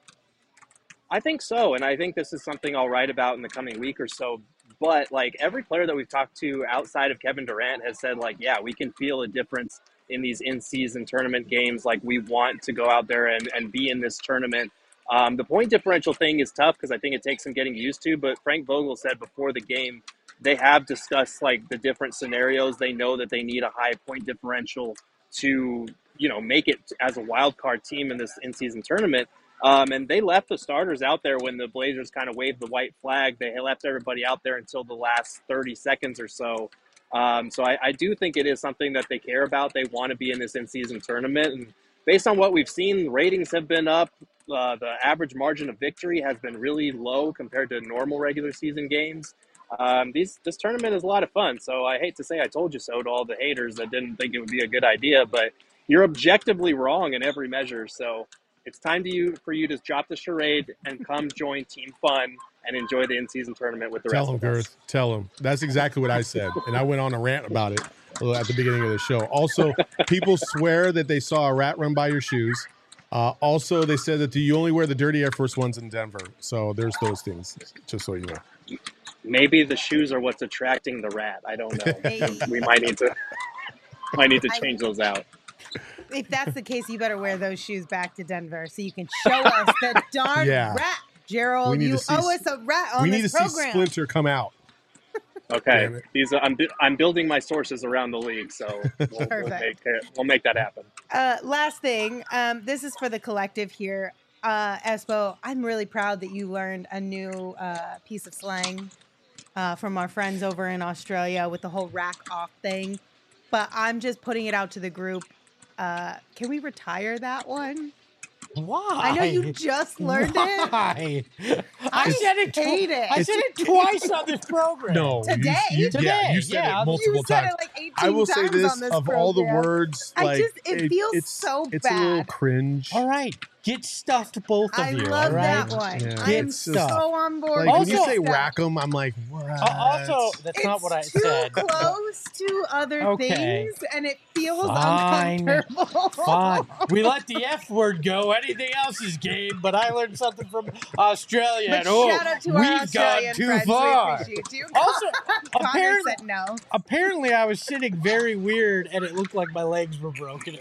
I think so, and I think this is something I'll write about in the coming week or so. But like every player that we've talked to outside of Kevin Durant has said, like, yeah, we can feel a difference in these in-season tournament games. Like, we want to go out there and be in this tournament. The point differential thing is tough because I think it takes some getting used to. But Frank Vogel said before the game, they have discussed like the different scenarios. They know that they need a high point differential to, make it as a wild card team in this in-season tournament. And they left the starters out there when the Blazers kind of waved the white flag. They left everybody out there until the last 30 seconds or so. So I do think it is something that they care about. They want to be in this in-season tournament. And based on what we've seen, ratings have been up. The average margin of victory has been really low compared to normal regular season games. This tournament is a lot of fun. So I hate to say I told you so to all the haters that didn't think it would be a good idea, but you're objectively wrong in every measure. So it's time for you to drop the charade and come join Team Fun and enjoy the in-season tournament with the rest of us. Girth. Tell him. That's exactly what I said. And I went on a rant about it at the beginning of the show. Also, people swear that they saw a rat run by your shoes. Also, they said that you only wear the dirty Air Force Ones in Denver. So there's those things, just so you know. Maybe the shoes are what's attracting the rat. I don't know. We might need to change those out. If that's the case, you better wear those shoes back to Denver so you can show us the darn rat. Gerald, you owe us a rat on this program. We need to see Splinter come out. Okay. I'm building my sources around the league, so we'll make that happen. Last thing, this is for the collective here. Espo, I'm really proud that you learned a new piece of slang from our friends over in Australia with the whole rack off thing. But I'm just putting it out to the group. Can we retire that one? Why? I know you just learned it. Why? I said it twice on this program. No, today. You said it multiple times. It like 18 I will times say this on this of program. all the words, it feels so it's bad. It's a little cringe. All right, get stuffed, both of you. I love all right? that one. Yeah. I'm so on board. Like, when you say rack 'em, I'm like, what? Also, that's not what I said. It's too close to other things, and it feels Fine. uncomfortable. Fine. We let the F word go. Anything else is game, but I learned something from Australia. But and shout out to our we've Australian gone too friends. far. We appreciate you. Also, Connor said no. Apparently, I was sitting very weird, and it looked like my legs were broken.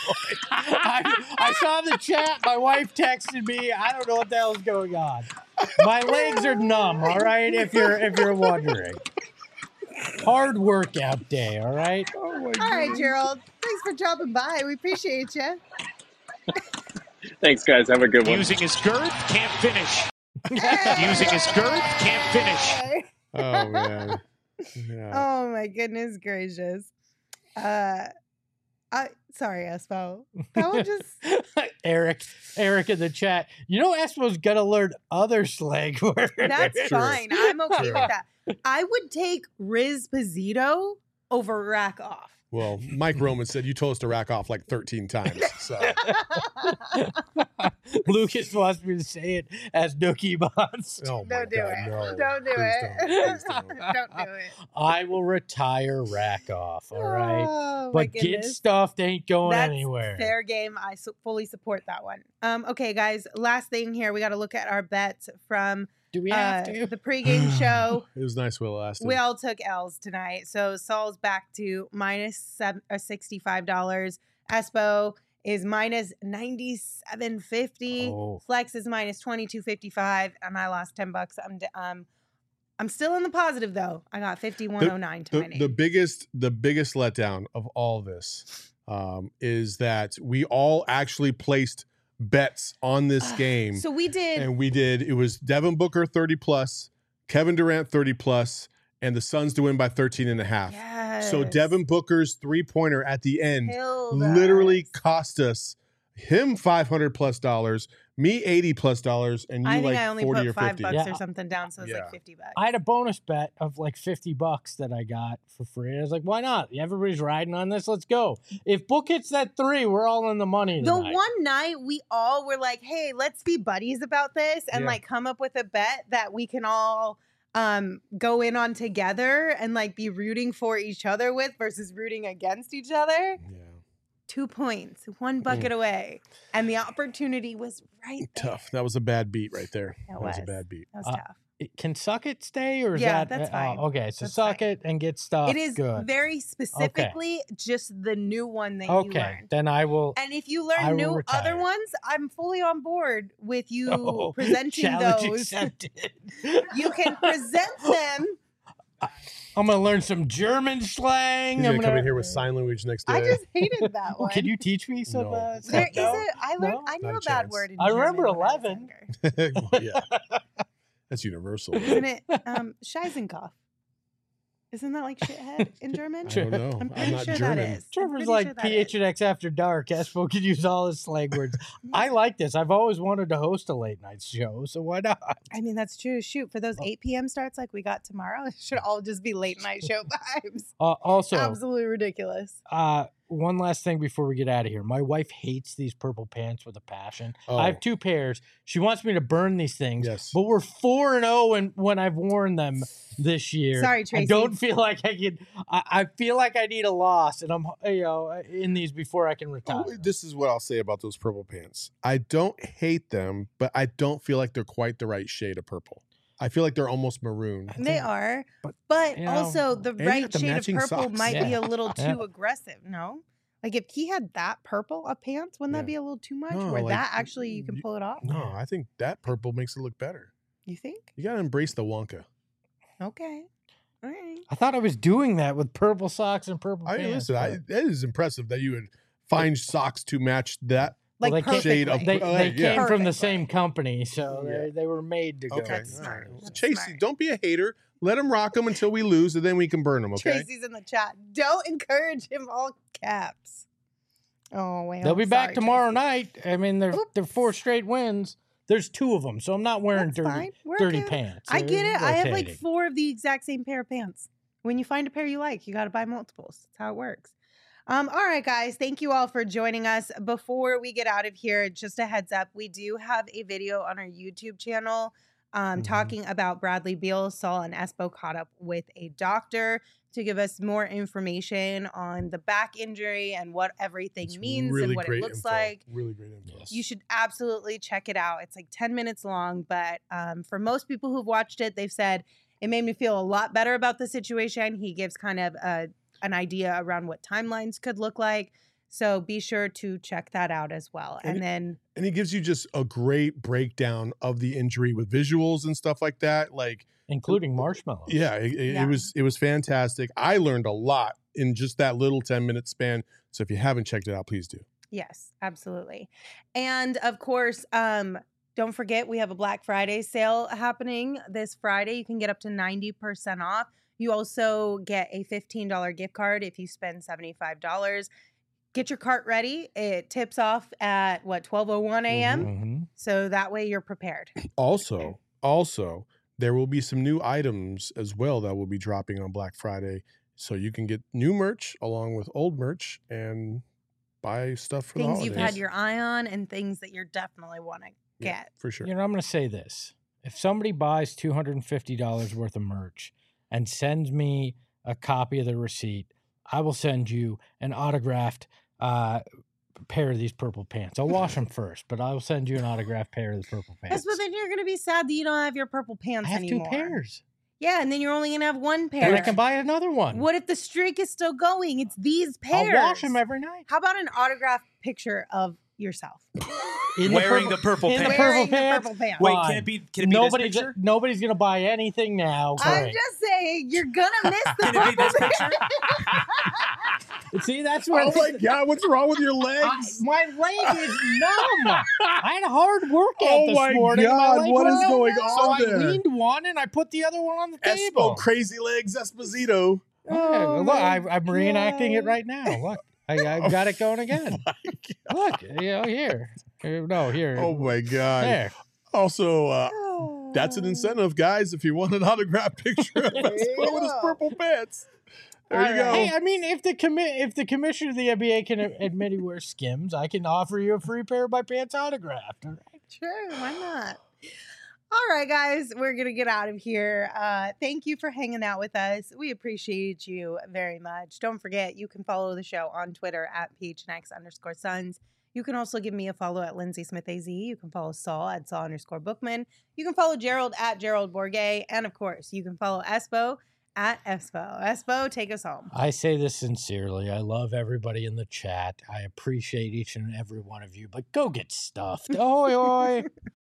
I saw the chat. My wife texted me. I don't know what the hell is going on. My legs are numb. All right, if you're wondering. Hard workout day. All right. Oh my God. All right, Gerald. Thanks for dropping by. We appreciate you. Thanks, guys. Have a good one. Using his girth, can't finish. Using his girth, can't finish. Oh man. Yeah. Oh my goodness gracious. Sorry, Espo. That one just Eric in the chat. You know Espo's gonna learn other slang words. That's fine. I'm okay with that. I would take Riz Pizzito over rack off. Well, Mike Roman said you told us to rack off like 13 times. So Lucas wants me to say it as Nookie Monster. Oh Don't do it. No. Don't do it. Don't do it. I will retire rack off. All right. Oh, but get stuffed ain't going anywhere. Fair game. I fully support that one. Okay, guys. Last thing here. We got to look at our bets from Do we have to? The pregame show. It was nice Will Aston. We all took L's tonight. So Saul's back to minus $65. Espo is minus $97.50. Oh. Flex is minus $22.55. And I lost $10. I'm still in the positive though. I got 5109 to my name. The biggest letdown of all this is that we all actually placed bets on this game. So we did. And we did. It was Devin Booker 30 plus, Kevin Durant 30 plus, and the Suns to win by 13.5. Yes. So Devin Booker's 3-pointer at the end Killed literally us. cost us him $500 plus, Me $80+ and you I think like I only 40 put or 50. $5 or something down, so it's like $50. I had a bonus bet of like $50 that I got for free. I was like, why not? Everybody's riding on this. Let's go. If Book hits that 3, we're all in the money tonight. The one night we all were like, hey, let's be buddies about this and like come up with a bet that we can all go in on together and like be rooting for each other with versus rooting against each other. Yeah. 2 points, 1 bucket away. And the opportunity was right there. Tough. That was a bad beat right there. That was a bad beat. That was tough. Can Suck-It stay or is Yeah, that that's fine. Okay, so That's Suck-It and get stuff. It is good. very specifically just the new one that you Okay, learned. then I will. And if you learn new retire. other ones, I'm fully on board with you presenting challenge those. accepted. You can present them. I'm gonna learn some German slang. He's I'm gonna come in here with sign language next day. I just hated that Oh, one. can you teach me some? No. There is no? I learned. No? I knew Not a a bad chance. word. In I remember German when I was 11. younger. Well, yeah. That's universal. Isn't it Scheisenkopf? Isn't that like shithead in German? I don't know. I'm I'm pretty not sure German. that is. I'm Trevor's pretty like sure that is. PHNX After Dark. Espo could use all his slang words. I like this. I've always wanted to host a late night show, so why not? I mean, that's true. Shoot, for those 8 p.m. starts like we got tomorrow, it should all just be late night show vibes. Also, Absolutely ridiculous. one last thing before we get out of here. My wife hates these purple pants with a passion. Oh. I have 2 pairs. She wants me to burn these things. Yes. But we're 4-0 when I've worn them this year. Sorry, Tracy. I don't feel like I can. I feel like I need a loss, and I'm in these before I can retire. Oh, this is what I'll say about those purple pants. I don't hate them, but I don't feel like they're quite the right shade of purple. I feel like they're almost maroon. They are, but, but you know, also the you right got the shade of matching purple socks. might be Yeah. a little Yeah. too aggressive. No, like if he had that purple of pants, wouldn't Yeah. that be a little too much? No, Where like, that actually you can pull it off. No, I think that purple makes it look better. You think? You gotta embrace the Wonka. Okay, all right. I thought I was doing that with purple socks and purple I pants. listen. It is impressive that you would find socks to match that. Like they can't- shade of- perfectly. They yeah. came from the Perfectly. same company, so Yeah. they were made to go. Okay, That's all smart. right. That's Chasey, smart. don't be a hater. Let him rock them until we lose, and then we can burn them. Okay. Tracy's in the chat. Don't encourage him. All caps. Oh wait. They'll be back sorry, tomorrow Tracy. night. I mean, they're 4 straight wins. There's 2 of them, so I'm not wearing That's fine. We're dirty okay. pants. I get They're it. I have like rotating. 4 of the exact same pair of pants. When you find a pair you like, you got to buy multiples. That's how it works. All right, guys. Thank you all for joining us. Before we get out of here, just a heads up, we do have a video on our YouTube channel talking about Bradley Beal. Saul and Espo caught up with a doctor to give us more information on the back injury and what everything It's means really and what it great looks info. like. Really great info. Yes. You should absolutely check it out. It's like 10 minutes long, but for most people who've watched it, they've said it made me feel a lot better about the situation. He gives kind of an idea around what timelines could look like. So be sure to check that out as well. And then And he gives you just a great breakdown of the injury with visuals and stuff like that. Like, including marshmallows. yeah, it was fantastic. I learned a lot in just that little 10-minute span. So if you haven't checked it out, please do. yes, absolutely. And of course, don't forget we have a Black Friday sale happening this Friday. You can get up to 90% off. You also get a $15 gift card if you spend $75. Get your cart ready. It tips off at 12:01 a.m. Mhm. So that way you're prepared. Also, there will be some new items as well that will be dropping on Black Friday. So you can get new merch along with old merch and buy stuff for the Things holidays. you've had your eye on and things that you definitely want to Yeah, get. for sure. You know, I'm going to say this. If somebody buys $250 worth of merch and sends me a copy of the receipt, I will send you an autographed pair of these purple pants. I'll wash them first, but I will send you an autographed pair of the purple pants. But then you're going to be sad that you don't have your purple I pants have anymore. 2 pairs. Yeah, and then you're only going to have 1 pair. And I can buy another one. What if the streak is still going? It's these pairs. I'll wash them every night. How about an autographed picture of yourself? Wearing the purple in the pants. purple Wearing the pants. purple pants. Wait, Fine. can it be this picture? Nobody's going to buy anything now. I'm Great. just saying, you're going to miss the Can it be this picture? See, that's where Oh my God, what's wrong with your legs? my leg is numb. I had a hard workout Oh this my morning. and God, leg what was is numb. going So on I there? leaned one and I put the other one on the Espo table. Crazy Legs Esposito. Oh, look, my I'm reenacting it God. right now. Look, I've got it going again. Look, here. No, here. Oh my God. There. Also, that's an incentive, guys. If you want an autographed picture of Espo with his purple pants, there you go. Hey, I mean, if the commissioner of the NBA can admit he wears Skims, I can offer you a free pair of my pants autographed. All right? Sure, why not? All right, guys, we're going to get out of here. Thank you for hanging out with us. We appreciate you very much. Don't forget, you can follow the show on Twitter at PHNX_Suns. You can also give me a follow at Lindsay Smith AZ. You can follow Saul at Saul_Bookman. You can follow Gerald at Gerald Bourget. And of course, you can follow Espo at Espo. Espo, take us home. I say this sincerely. I love everybody in the chat. I appreciate each and every one of you, but go get stuffed. Oi, oi.